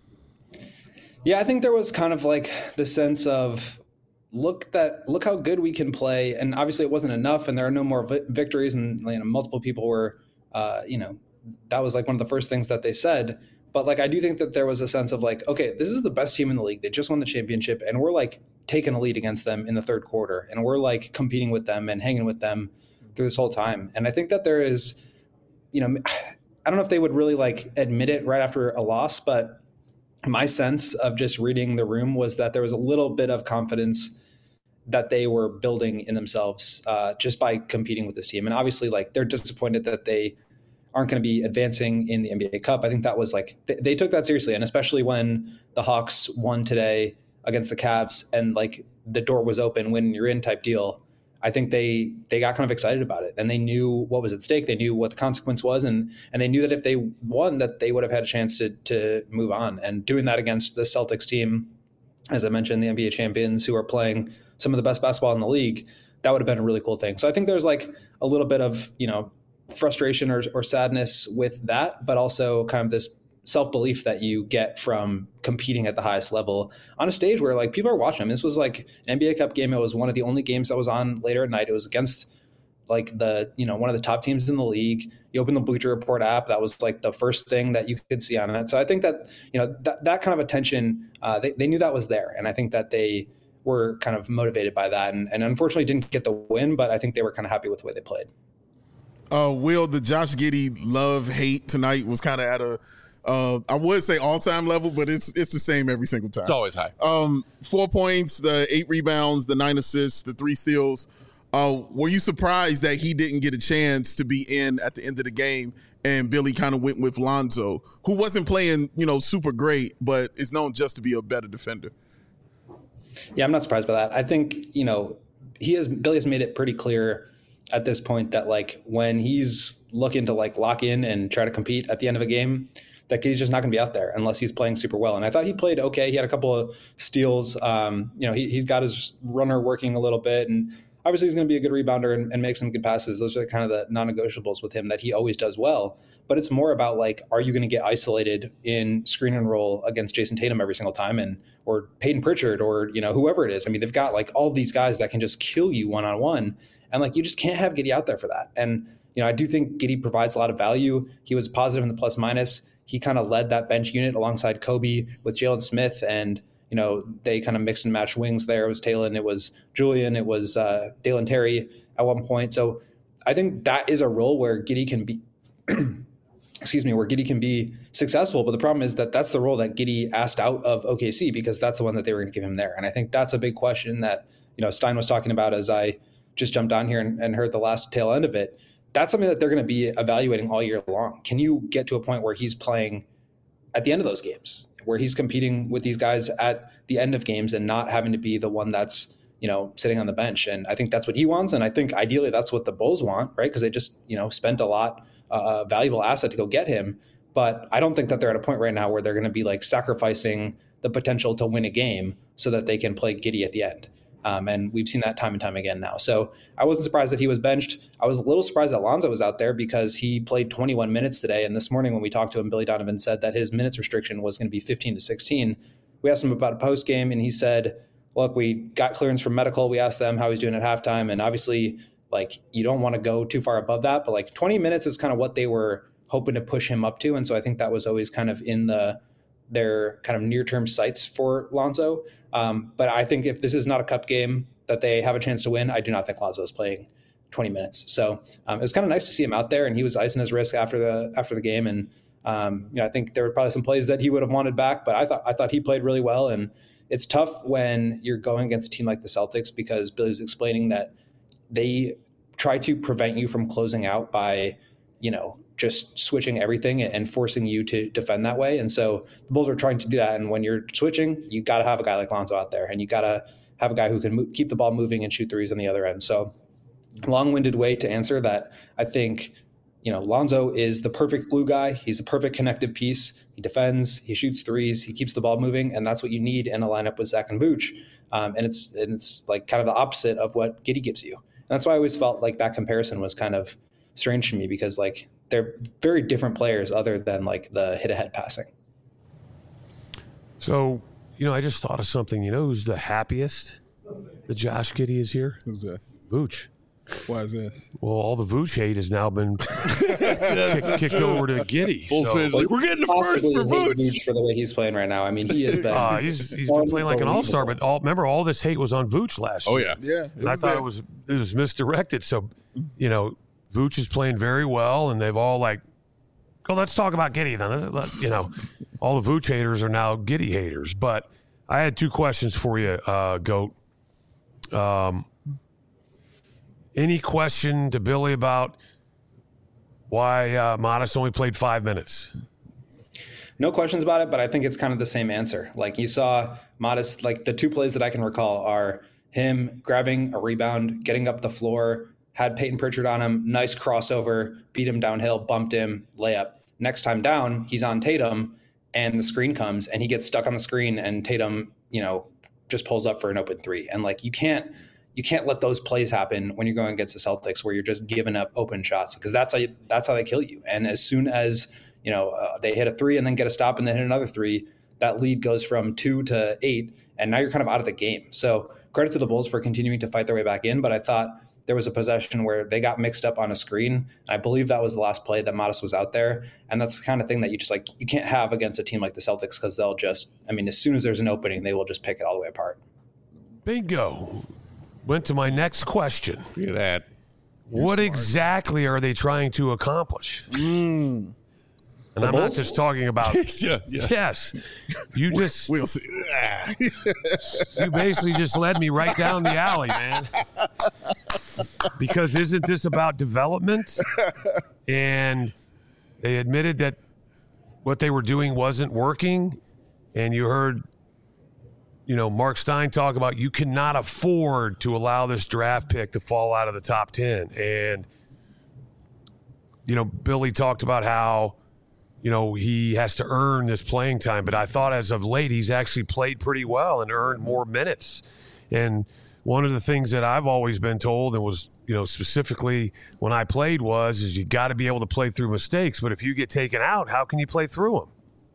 Yeah, I think there was kind of like the sense of look that look how good we can play, and obviously it wasn't enough, and there are no more vi- victories, and you know, multiple people were, uh, you know, that was like one of the first things that they said. But like I do think that there was a sense of like, okay, this is the best team in the league. They just won the championship, and we're like taking a lead against them in the third quarter, and we're like competing with them and hanging with them through this whole time. And I think that there is, you know, I don't know if they would really like admit it right after a loss, but my sense of just reading the room was that there was a little bit of confidence that they were building in themselves uh, just by competing with this team. And obviously, like, they're disappointed that they aren't going to be advancing in the N B A Cup. I think that was like, they, they took that seriously. And especially when the Hawks won today against the Cavs and like the door was open, when you're in type deal, I think they they got kind of excited about it, and they knew what was at stake. They knew what the consequence was, and and they knew that if they won, that they would have had a chance to to move on. And doing that against the Celtics team, as I mentioned, the N B A champions who are playing some of the best basketball in the league, that would have been a really cool thing. So I think there's like a little bit of, you know, frustration or, or sadness with that, but also kind of this self-belief that you get from competing at the highest level on a stage where like people are watching them. This was like an N B A Cup game. It was one of the only games that was on later at night. It was against like the, you know, one of the top teams in the league. You open the Bleacher Report app, that was like the first thing that you could see on it. So I think that, you know, that, that kind of attention, uh, they, they knew that was there. And I think that they were kind of motivated by that, and, and unfortunately didn't get the win, but I think they were kind of happy with the way they played. Uh, Will, the Josh Giddey love hate tonight was kind of at a, Uh, I would say all-time level, but it's it's the same every single time. It's always high. Um, four points, the eight rebounds, the nine assists, the three steals. Uh, were you surprised that he didn't get a chance to be in at the end of the game, and Billy kind of went with Lonzo, who wasn't playing, you know, super great, but is known just to be a better defender? Yeah, I'm not surprised by that. I think, you know, he has Billy has made it pretty clear at this point that like when he's looking to like lock in and try to compete at the end of a game, that he's just not going to be out there unless he's playing super well. And I thought he played okay. He had a couple of steals. Um, you know, he, he's got his runner working a little bit, and obviously he's going to be a good rebounder and, and make some good passes. Those are kind of the non-negotiables with him that he always does well. But it's more about like, are you going to get isolated in screen and roll against Jason Tatum every single time, and or Peyton Pritchard, or you know whoever it is. I mean, they've got like all these guys that can just kill you one on one, and like you just can't have Giddey out there for that. And you know, I do think Giddey provides a lot of value. He was positive in the plus minus. He kind of led that bench unit alongside Kobe with Jalen Smith, and you know they kind of mixed and matched wings there. It was Talon, it was Julian, it was uh, Dalen Terry at one point. So I think that is a role where Giddey can be, excuse me, where Giddey can be successful. But the problem is that that's the role that Giddey asked out of O K C, because that's the one that they were going to give him there. And I think that's a big question that you know Stein was talking about as I just jumped on here and, and heard the last tail end of it. That's something that they're going to be evaluating all year long. Can you get to a point where he's playing at the end of those games, where he's competing with these guys at the end of games and not having to be the one that's, you know, sitting on the bench? And I think that's what he wants. And I think ideally that's what the Bulls want, right? Because they just, you know, spent a lot, uh, a valuable asset to go get him. But I don't think that they're at a point right now where they're going to be like sacrificing the potential to win a game so that they can play Giddey at the end. Um, and we've seen that time and time again now. So I wasn't surprised that he was benched. I was a little surprised that Lonzo was out there because he played twenty-one minutes today. And this morning when we talked to him, Billy Donovan said that his minutes restriction was going to be fifteen to sixteen. We asked him about a post game, and he said, look, we got clearance from medical. We asked them how he's doing at halftime. And obviously, like, you don't want to go too far above that. But like twenty minutes is kind of what they were hoping to push him up to. And so I think that was always kind of in the their kind of near-term sights for Lonzo. Um, but I think if this is not a cup game that they have a chance to win, I do not think Lonzo is playing twenty minutes. So um, it was kind of nice to see him out there, and he was icing his wrist after the after the game. And um, you know, I think there were probably some plays that he would have wanted back, but I thought I thought he played really well. And it's tough when you're going against a team like the Celtics, because Billy was explaining that they try to prevent you from closing out by, you know, just switching everything and forcing you to defend that way. And so the Bulls are trying to do that. And when you're switching, you got to have a guy like Lonzo out there, and you got to have a guy who can mo- keep the ball moving and shoot threes on the other end. So long-winded way to answer that. I think, you know, Lonzo is the perfect glue guy. He's a perfect connective piece. He defends, he shoots threes, he keeps the ball moving, and that's what you need in a lineup with Zach and Vooch. Um, and it's and it's like kind of the opposite of what Giddey gives you. And that's why I always felt like that comparison was kind of strange to me, because like they're very different players other than like the hit-ahead passing. So, you know, I just thought of something. You know who's the happiest that Josh Giddey is here? Who's that? Vooch. Why is that? Well, all the Vooch hate has now been kicked, kicked over to Giddey. Bulls So, fans like, we're getting the first Possibly for hate Vooch. Vooch for the way he's playing right now. I mean, he has been. uh, he's he's been playing like an all-star, but all, remember, all this hate was on Vooch last Oh, year. yeah. Yeah. And I thought it was it was misdirected. So, you know, Vooch is playing very well, and they've all like, oh, let's talk about Giddey then. Let- You know, all the Vooch haters are now Giddey haters. But I had two questions for you, uh, Goat. Um, any question to Billy about why uh, Modest only played five minutes? No questions about it, but I think it's kind of the same answer. Like you saw Modest, like the two plays that I can recall are him grabbing a rebound, getting up the floor, had Peyton Pritchard on him, nice crossover, beat him downhill, bumped him, layup. Next time down, he's on Tatum, and the screen comes, and he gets stuck on the screen, and Tatum, you know, just pulls up for an open three. And like you can't you can't let those plays happen when you're going against the Celtics, where you're just giving up open shots, because that's how you, that's how they kill you. And as soon as you know uh, they hit a three and then get a stop and then hit another three, that lead goes from two to eight, and now you're kind of out of the game. So credit to the Bulls for continuing to fight their way back in, but I thought there was a possession where they got mixed up on a screen. I believe that was the last play that Modest was out there. And that's the kind of thing that you just like, you can't have against a team like the Celtics, because they'll just, I mean, as soon as there's an opening, they will just pick it all the way apart. Bingo. Went to my next question. Look at that. What exactly are they trying to accomplish? Mm. And I'm not just talking about. yeah, yeah. Yes. You just. We'll see. You basically just led me right down the alley, man. Because isn't this about development? And they admitted that what they were doing wasn't working. And you heard, you know, Mark Stein talk about you cannot afford to allow this draft pick to fall out of the top ten. And, you know, Billy talked about how, you know, he has to earn this playing time. But I thought as of late, he's actually played pretty well and earned more minutes. And one of the things that I've always been told, and was, you know, specifically when I played was, is you got to be able to play through mistakes. But if you get taken out, how can you play through them?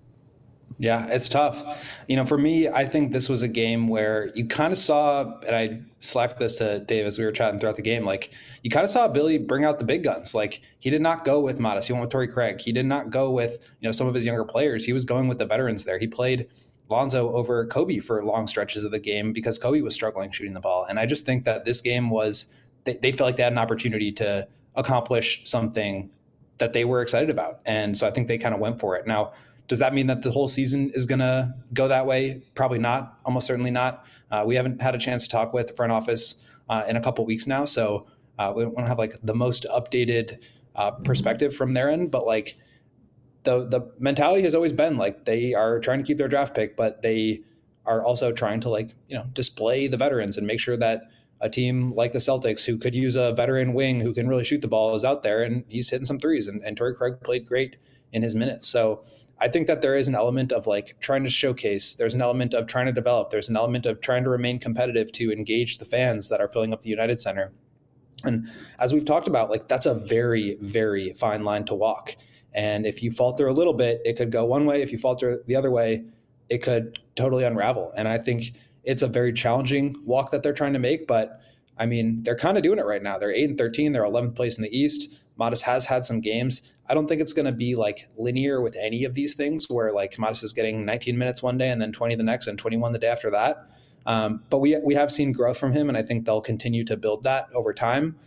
Yeah, it's tough. You know, for me, I think this was a game where you kind of saw, and I slapped this to Dave as we were chatting throughout the game, like you kind of saw Billy bring out the big guns. Like he did not go with Modest. He went with Torrey Craig. He did not go with, you know, some of his younger players. He was going with the veterans there. He played Lonzo over Kobe for long stretches of the game because Kobe was struggling shooting the ball. And I just think that this game was, they, they felt like they had an opportunity to accomplish something that they were excited about. And so I think they kind of went for it. Now, does that mean that the whole season is going to go that way? Probably not. Almost certainly not. Uh, we haven't had a chance to talk with the front office uh, in a couple of weeks now. So uh, we don't have like the most updated uh, perspective from their end, but like the, the mentality has always been like they are trying to keep their draft pick, but they are also trying to like, you know, display the veterans and make sure that a team like the Celtics, who could use a veteran wing who can really shoot the ball, is out there, and he's hitting some threes, and, and Torrey Craig played great in his minutes. So I think that there is an element of like trying to showcase. There's an element of trying to develop. There's an element of trying to remain competitive to engage the fans that are filling up the United Center. And as we've talked about, like that's a very, very fine line to walk. And if you falter a little bit, it could go one way. If you falter the other way, it could totally unravel. And I think it's a very challenging walk that they're trying to make. But I mean, they're kind of doing it right now. They're eight and thirteen. They're eleventh place in the East. Modest has had some games. I don't think it's going to be like linear with any of these things where like Modest is getting nineteen minutes one day and then twenty the next and twenty-one the day after that. Um, but we we have seen growth from him, and I think they'll continue to build that over time.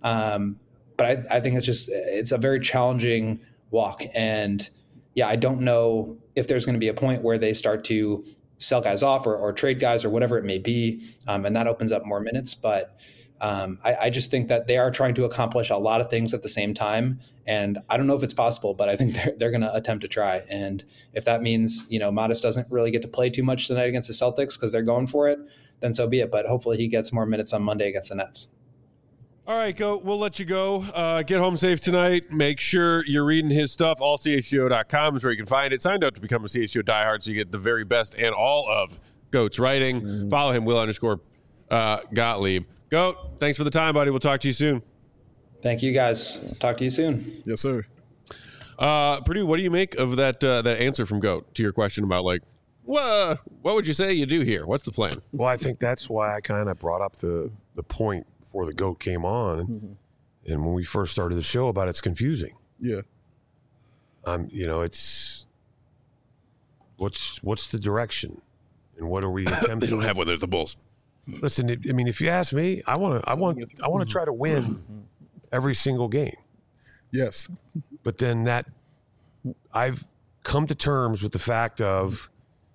Um, but I, I think it's just it's a very challenging walk. And yeah, I don't know if there's going to be a point where they start to sell guys off or, or trade guys or whatever it may be. Um, and that opens up more minutes. But um, I, I just think that they are trying to accomplish a lot of things at the same time. And I don't know if it's possible, but I think they're, they're going to attempt to try. And if that means, you know, Modest doesn't really get to play too much tonight against the Celtics because they're going for it, then so be it. But hopefully he gets more minutes on Monday against the Nets. All right, go. We'll let you go. Uh, get home safe tonight. Make sure you're reading his stuff. all c h g o dot com is where you can find it. Signed up to become a C H G O diehard so you get the very best and all of Goat's writing. Mm-hmm. Follow him, Will underscore uh, Gottlieb. Goat, thanks for the time, buddy. We'll talk to you soon. Thank you, guys. Talk to you soon. Yes, sir. Uh, Purdue, what do you make of that uh, that answer from Goat to your question about, like, what, what would you say you do here? What's the plan? Well, I think that's why I kind of brought up the, the point before the Goat came on. Mm-hmm. And when we first started the show about it's confusing. Yeah. Um, you know, it's what's what's the direction and what are we attempting? They don't have one. They're the Bulls. Listen, I mean, if you ask me, I want to I want I want to try to win every single game. Yes. But then that I've come to terms with the fact of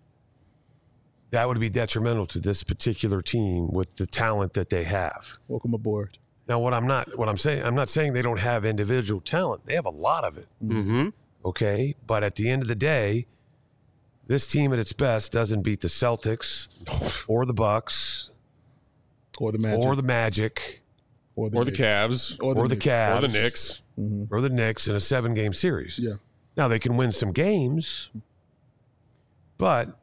that would be detrimental to this particular team with the talent that they have. Welcome aboard. Now, what I'm not, what I'm saying, I'm not saying they don't have individual talent. They have a lot of it. Mm-hmm. Okay, but at the end of the day, this team at its best doesn't beat the Celtics or the Bucks or the Magic or the Magic or the, or the Cavs or the, or the Cavs or the Knicks mm-hmm. or the Knicks in a seven-game series. Yeah. Now they can win some games, but.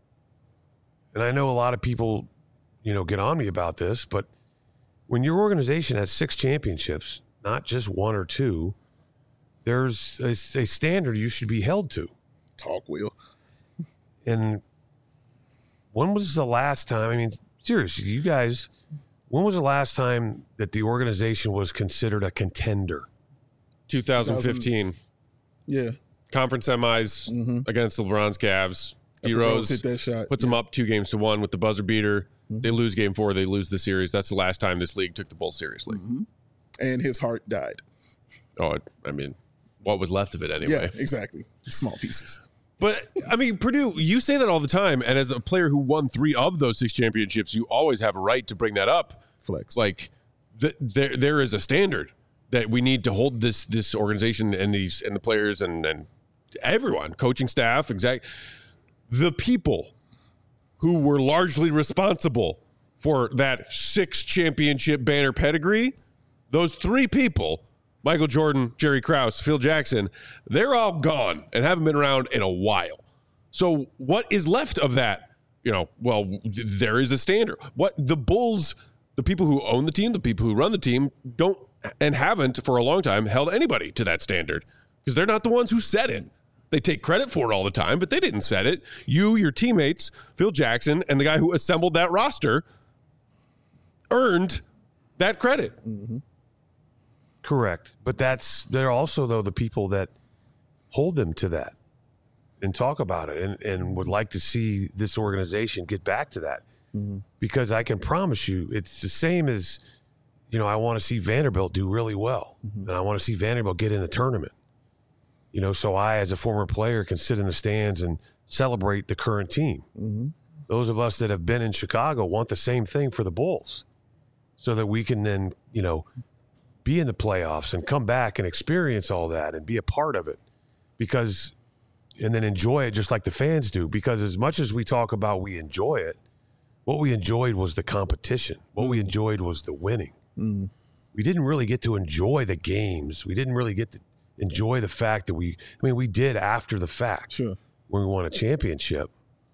And I know a lot of people, you know, get on me about this, but when your organization has six championships, not just one or two, there's a, a standard you should be held to. Talk, Will. And when was the last time, I mean, seriously, you guys, when was the last time that the organization was considered a contender? twenty fifteen. Yeah. Conference semis mm-hmm. against LeBron's Cavs. D-Rose hit that shot. puts yeah. them up two games to one with the buzzer beater. Mm-hmm. They lose game four. They lose the series. That's the last time this league took the Bulls seriously. Mm-hmm. And his heart died. Oh, I mean, what was left of it anyway? Yeah, exactly. Small pieces. But, I mean, Purdue, you say that all the time. And as a player who won three of those six championships, you always have a right to bring that up. Flex. Like, th- there there is a standard that we need to hold this this organization and these and the players and, and everyone, coaching staff, exact. The people who were largely responsible for that six championship banner pedigree, those three people, Michael Jordan, Jerry Krause, Phil Jackson, they're all gone and haven't been around in a while. So what is left of that? You know, well, there is a standard. What the Bulls, the people who own the team, the people who run the team, don't and haven't for a long time held anybody to that standard because they're not the ones who set it. They take credit for it all the time, but they didn't set it. You, your teammates, Phil Jackson, and the guy who assembled that roster earned that credit. Mm-hmm. Correct. But that's, they're also, though, the people that hold them to that and talk about it and, and would like to see this organization get back to that. Mm-hmm. Because I can promise you, it's the same as, you know, I want to see Vanderbilt do really well. Mm-hmm. And I want to see Vanderbilt get in the tournament. You know, so I, as a former player, can sit in the stands and celebrate the current team. Mm-hmm. Those of us that have been in Chicago want the same thing for the Bulls so that we can then, you know, be in the playoffs and come back and experience all that and be a part of it because, and then enjoy it just like the fans do. Because as much as we talk about we enjoy it, what we enjoyed was the competition. What mm-hmm. we enjoyed was the winning. Mm-hmm. We didn't really get to enjoy the games. We didn't really get to enjoy the fact that we, I mean, we did after the fact sure. when we won a championship.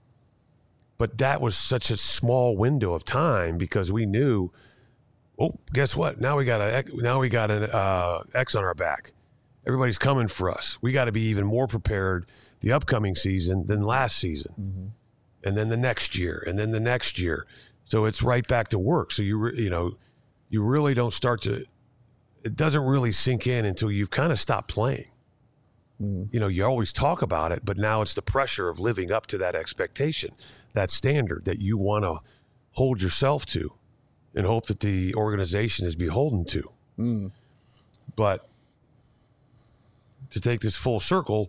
But that was such a small window of time because we knew, oh, guess what? Now we got a now we got an uh, X on our back. Everybody's coming for us. We got to be even more prepared the upcoming season than last season, mm-hmm. and then the next year, and then the next year. So it's right back to work. So you re, you know, you really don't start to. It doesn't really sink in until you've kind of stopped playing. Mm. You know, you always talk about it, but now it's the pressure of living up to that expectation, that standard that you want to hold yourself to and hope that the organization is beholden to. Mm. But to take this full circle,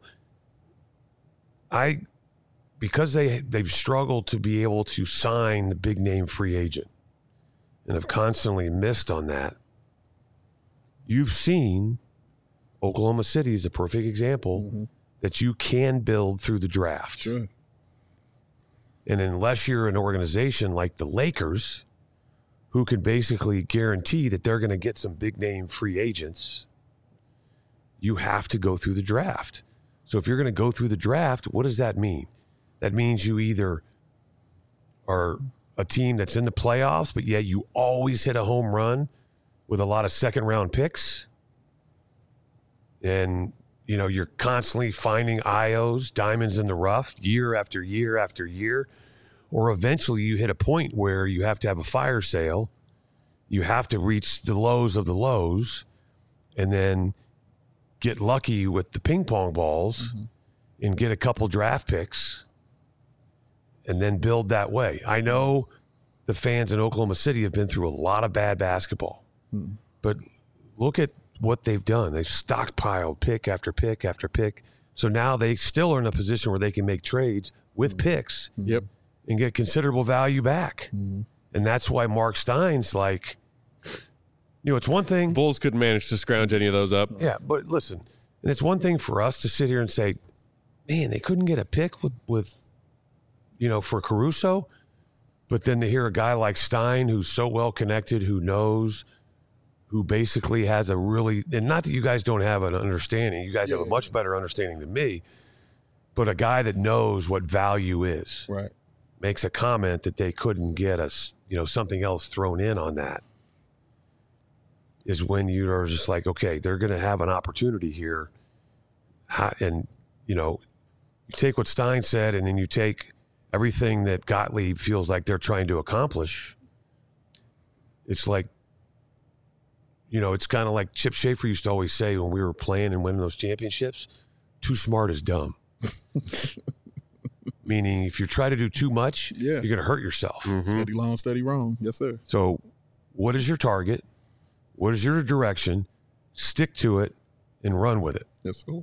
I, because they, they've struggled to be able to sign the big name free agent and have constantly missed on that, you've seen Oklahoma City is a perfect example mm-hmm. that you can build through the draft. Sure. And unless you're an organization like the Lakers, who can basically guarantee that they're going to get some big name free agents, you have to go through the draft. So if you're going to go through the draft, what does that mean? That means you either are a team that's in the playoffs, but yet you always hit a home run with a lot of second round picks. And, you know, you're constantly finding I Os, diamonds in the rough, year after year after year. Or eventually you hit a point where you have to have a fire sale. You have to reach the lows of the lows and then get lucky with the ping pong balls mm-hmm. and get a couple draft picks and then build that way. I know the fans in Oklahoma City have been through a lot of bad basketball, mm-hmm. but look at what they've done. They've stockpiled pick after pick after pick. So now they still are in a position where they can make trades with mm-hmm. picks. Yep. And get considerable value back. Mm-hmm. And that's why Mark Stein's like, you know, it's one thing. Bulls couldn't manage to scrounge any of those up. Yeah, but listen, and it's one thing for us to sit here and say, man, they couldn't get a pick with, with you know, for Caruso. But then to hear a guy like Stein, who's so well connected, who knows, who basically has a really, and not that you guys don't have an understanding, you guys yeah, have a much better understanding than me, but a guy that knows what value is. Right. Makes a comment that they couldn't get us, you know, something else thrown in on that, is when you are just like, okay, they're going to have an opportunity here. And, you know, you take what Stein said and then you take everything that Gottlieb feels like they're trying to accomplish. It's like, you know, it's kind of like Chip Schaefer used to always say when we were playing and winning those championships, too smart is dumb. Meaning if you try to do too much, yeah. you're going to hurt yourself. Mm-hmm. Steady long, steady wrong. Yes, sir. So what is your target? What is your direction? Stick to it and run with it. Yes, sir.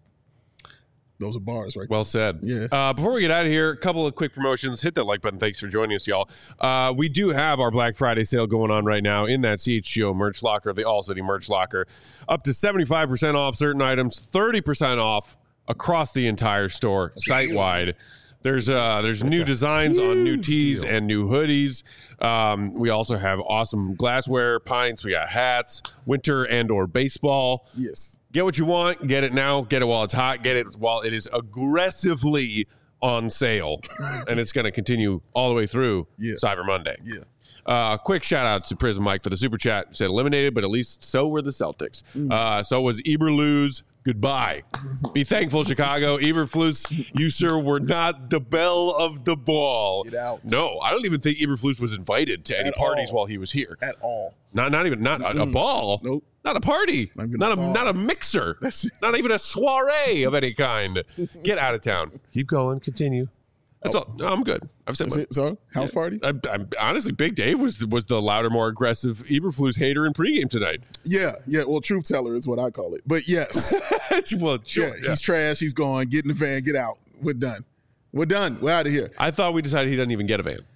Those are bars, right? Well said. Yeah. Uh, before we get out of here, a couple of quick promotions. Hit that like button. Thanks for joining us, y'all. Uh, we do have our Black Friday sale going on right now in that C H G O merch locker, the All City merch locker. Up to seventy-five percent off certain items, thirty percent off across the entire store, site-wide. There's uh, there's new designs on new tees deal. and new hoodies. Um, we also have awesome glassware, pints. We got hats, winter and or baseball. Yes. Get what you want. Get it now. Get it while it's hot. Get it while it is aggressively on sale. And it's going to continue all the way through yeah. Cyber Monday. Yeah. Uh, quick shout out to Prism Mike for the super chat. Said eliminated, but at least so were the Celtics. Mm. Uh, so was Eberflus. Goodbye. Be thankful, Chicago. Eberflus, you, sir, were not the belle of the ball. Get out. No, I don't even think Eberflus was invited to any At parties all. while he was here. At all. Not not even, not a, a ball. Nope. Not a party. Not, not a, a not a mixer. Not even a soiree of any kind. Get out of town. Keep going. Continue. That's all. No, I'm good. I've said Is my, it so? House yeah, party? I, I'm honestly, Big Dave was was the louder, more aggressive Eberflus hater in pregame tonight. Yeah, yeah. Well, truth teller is what I call it. But yes, well, sure. Yeah, yeah. He's trash. He's gone. Get in the van. Get out. We're done. We're done. We're out of here. I thought we decided he doesn't even get a van.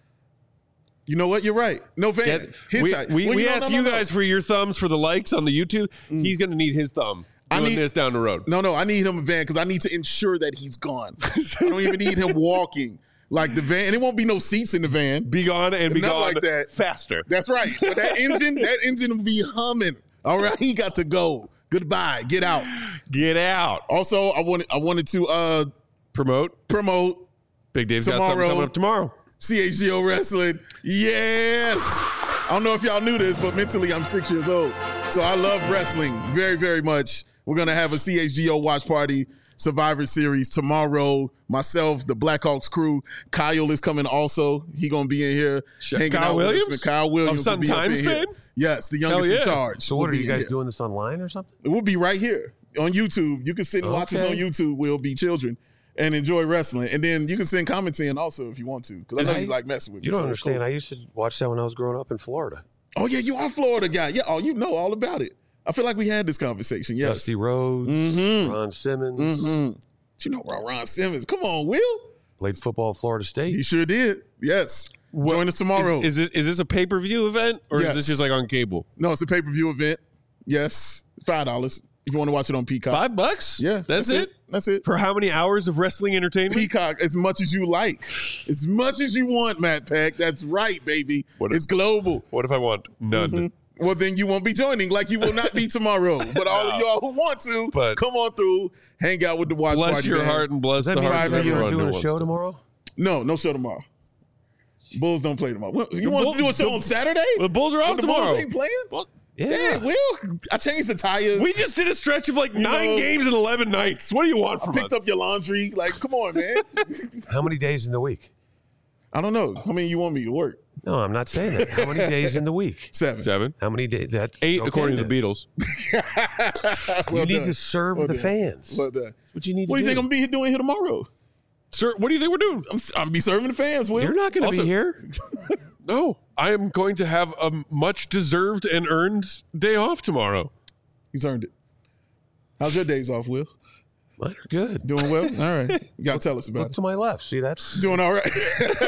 You know what? You're right. No van. Get, we we, well, we you know, asked no, no, you no. guys for your thumbs for the likes on the YouTube. Mm. He's going to need his thumb. Doing I need this down the road. No, no. I need him a van because I need to ensure that he's gone. I don't even need him walking. Like the van, and it won't be no seats in the van. Be gone and be Not gone like that. faster. That's right. But that engine, that engine will be humming. All right, he got to go. Goodbye. Get out. Get out. Also, I wanted I wanted to uh, promote promote. Big Dave's tomorrow, got something coming up tomorrow. C H G O Wrestling. Yes. I don't know if y'all knew this, but mentally I'm six years old, so I love wrestling very, very much. We're gonna have a C H G O watch party. Survivor Series tomorrow. Myself, the Blackhawks crew. Kyle is coming also. He gonna be in here Chef hanging Kyle out Williams? with us. Kyle Williams of Sun will be Times up in here. fame? Yes, the youngest yeah. in charge. So will what are you guys here. doing this online or something? We'll be right here on YouTube. You can sit and watch us Okay. on YouTube. We'll be children and enjoy wrestling. And then you can send comments in also if you want to, because I know I- you like messing with me. You don't so it's understand. cool. I used to watch that when I was growing up in Florida. Oh yeah, you are a Florida guy. Yeah. Oh, you know all about it. I feel like we had this conversation. Yes. Dusty Rhodes, Mhm. Ron Simmons. Mm-hmm. You know about Ron Simmons. Come on, Will. Played football at Florida State. He sure did. Yes. What- Join us tomorrow. Is, is, this, is this a pay-per-view event, or Yes. is this just like on cable? no, it's a pay-per-view event. Yes. five dollars if you want to watch it on Peacock. Five bucks? Yeah. That's, it? That's it. For how many hours of wrestling entertainment? Peacock as much as you like. As much as you want, Matt Peck. That's right, baby. What if- it's global. What if I want none? Mhm. Well, then you won't be joining, like you will not be tomorrow. But all of y'all who want to, But- come on through, hang out with the watch Bless party. your gang. heart and bless Does that the mean hearts of five you're everyone doing who a wants show to. tomorrow? No, no show tomorrow. Bulls don't play tomorrow. What, you want us to do a show the- on Saturday? The Bulls are off But the tomorrow. Bulls ain't playing? Well, Yeah. Dang, Will, I changed the tires. we just did a stretch of like nine know- games and eleven nights. What do you want I from picked us? up your laundry. Like, come on, man. How many days in the week? I don't know. How many you want me to work? No, I'm not saying that. How many days in the week? Seven. Seven, How many days? That's eight, okay according to then. the Beatles. Well You need done. to serve Well the done. fans. Well done. What you need What to do you think I'm gonna be here doing here tomorrow? Sir, what do you think we're doing? I'm, I'm gonna be serving the fans. Will You're not going to Also- be here. No, I am going to have a much deserved and earned day off tomorrow. He's earned it. How's your days off, Will? Mine are good. Doing well. All right. You gotta tell us about Look it. to my left. See, that's Doing all right.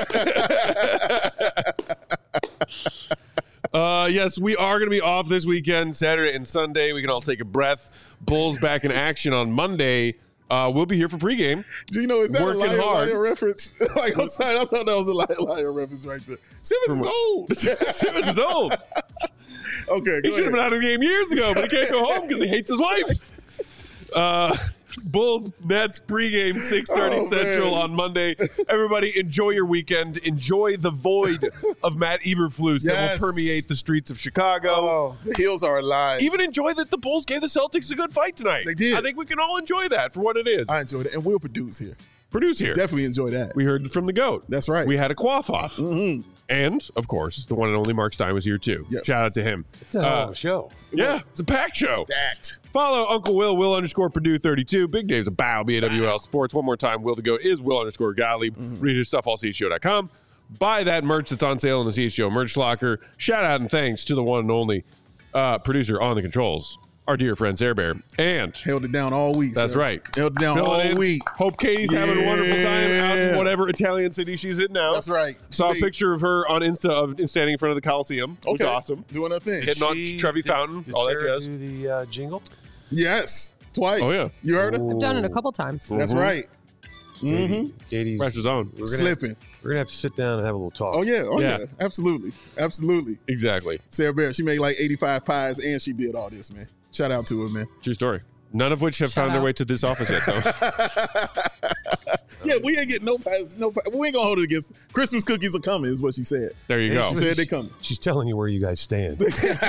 Uh, yes, we are going to be off this weekend, Saturday and Sunday. We can all take a breath. Bulls back in action on Monday. Uh, we'll be here for pregame. Do you know, is that Working a liar, hard. liar reference? Like, I'm sorry, I thought that was a liar, liar reference right there. Simmons is old. Simmons is old. Okay, He go should have ahead. been out of the game years ago, but he can't go home because he hates his wife. Uh, Bulls Nets pregame six thirty Oh, Central man. on Monday. Everybody enjoy your weekend. Enjoy the void of Matt Eberflus that Yes. will permeate the streets of Chicago. Oh, the Hills are alive. Even enjoy that the Bulls gave the Celtics a good fight tonight. They did. I think we can all enjoy that for what it is. I enjoyed it. And we'll produce here. Produce here. Definitely enjoy that. We heard from the GOAT. That's right. We had a quaff off. Mhm. And, of course, the one and only Mark Stein was here too. Yes. Shout out to him. it's a hell of Uh, a show. Yeah, it's a packed show. Stacked. Follow Uncle Will, Will underscore Purdue thirty-two. Big Dave's a bow, B A W L Sports. One more time, Will to go is Will underscore Gottlieb. Mm-hmm. Read his stuff, all C H G O dot com. Buy that merch that's on sale in the C H G O merch locker. Shout out and thanks to the one and only uh, producer on the controls, our dear friend Sarah Bear. And Held it down all week. that's sir. right. Held it down Fill it all in. week. Hope Katie's having a wonderful time out in Yeah. whatever Italian city she's in now. That's right. Saw a Wait. picture of her on Insta of standing in front of the Coliseum. Which was Okay. awesome. Doing her thing. Hitting on She- Trevi did- Fountain, did all that Sarah jazz. do the uh, jingle? Yes. Twice. Oh, yeah. You heard her? I've done it a couple times. That's Mhm. right. Mm-hmm. Katie's. Press his own. We're gonna, Slipping. we're gonna have to sit down and have a little talk. Oh, yeah. Oh, Yeah. yeah. Absolutely. Absolutely. Exactly. Sarah Bear, she made like eighty-five pies and she did all this, man. Shout out to her, man. True story. None of which have Shout found their out. way to this office yet, though. Yeah, we ain't getting no pies. No pies. We ain't gonna hold it against. Christmas cookies are coming, is what she said. There you Yeah, go. She said they coming. She's telling you where you guys stand.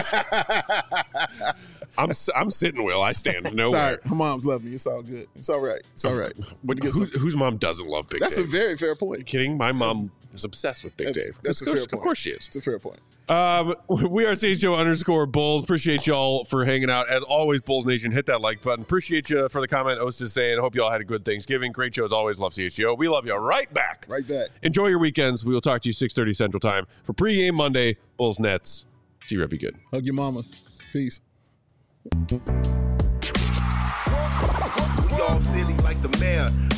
I'm s- I'm sitting, Will. I stand Sorry, nowhere. her mom's love me. It's all good. It's all right. It's all right. But You get who, some- whose mom doesn't love Big That's a Dave? very fair Are you point. kidding? My mom is obsessed with Big That's- Dave. that's of a course, fair Of point. course she is. It's a fair point. Um, we are C H G O underscore Bulls. Appreciate y'all for hanging out. As always, Bulls Nation, hit that like button. Appreciate you for the comment. Ost is saying, hope you all had a good Thanksgiving. Great show as always. Love C H G O. We love you right back. Right back. Enjoy your weekends. We will talk to you six thirty Central Time for pregame Monday. Bulls Nets. See you, be good. Hug your mama. Peace. We all silly like the mayor.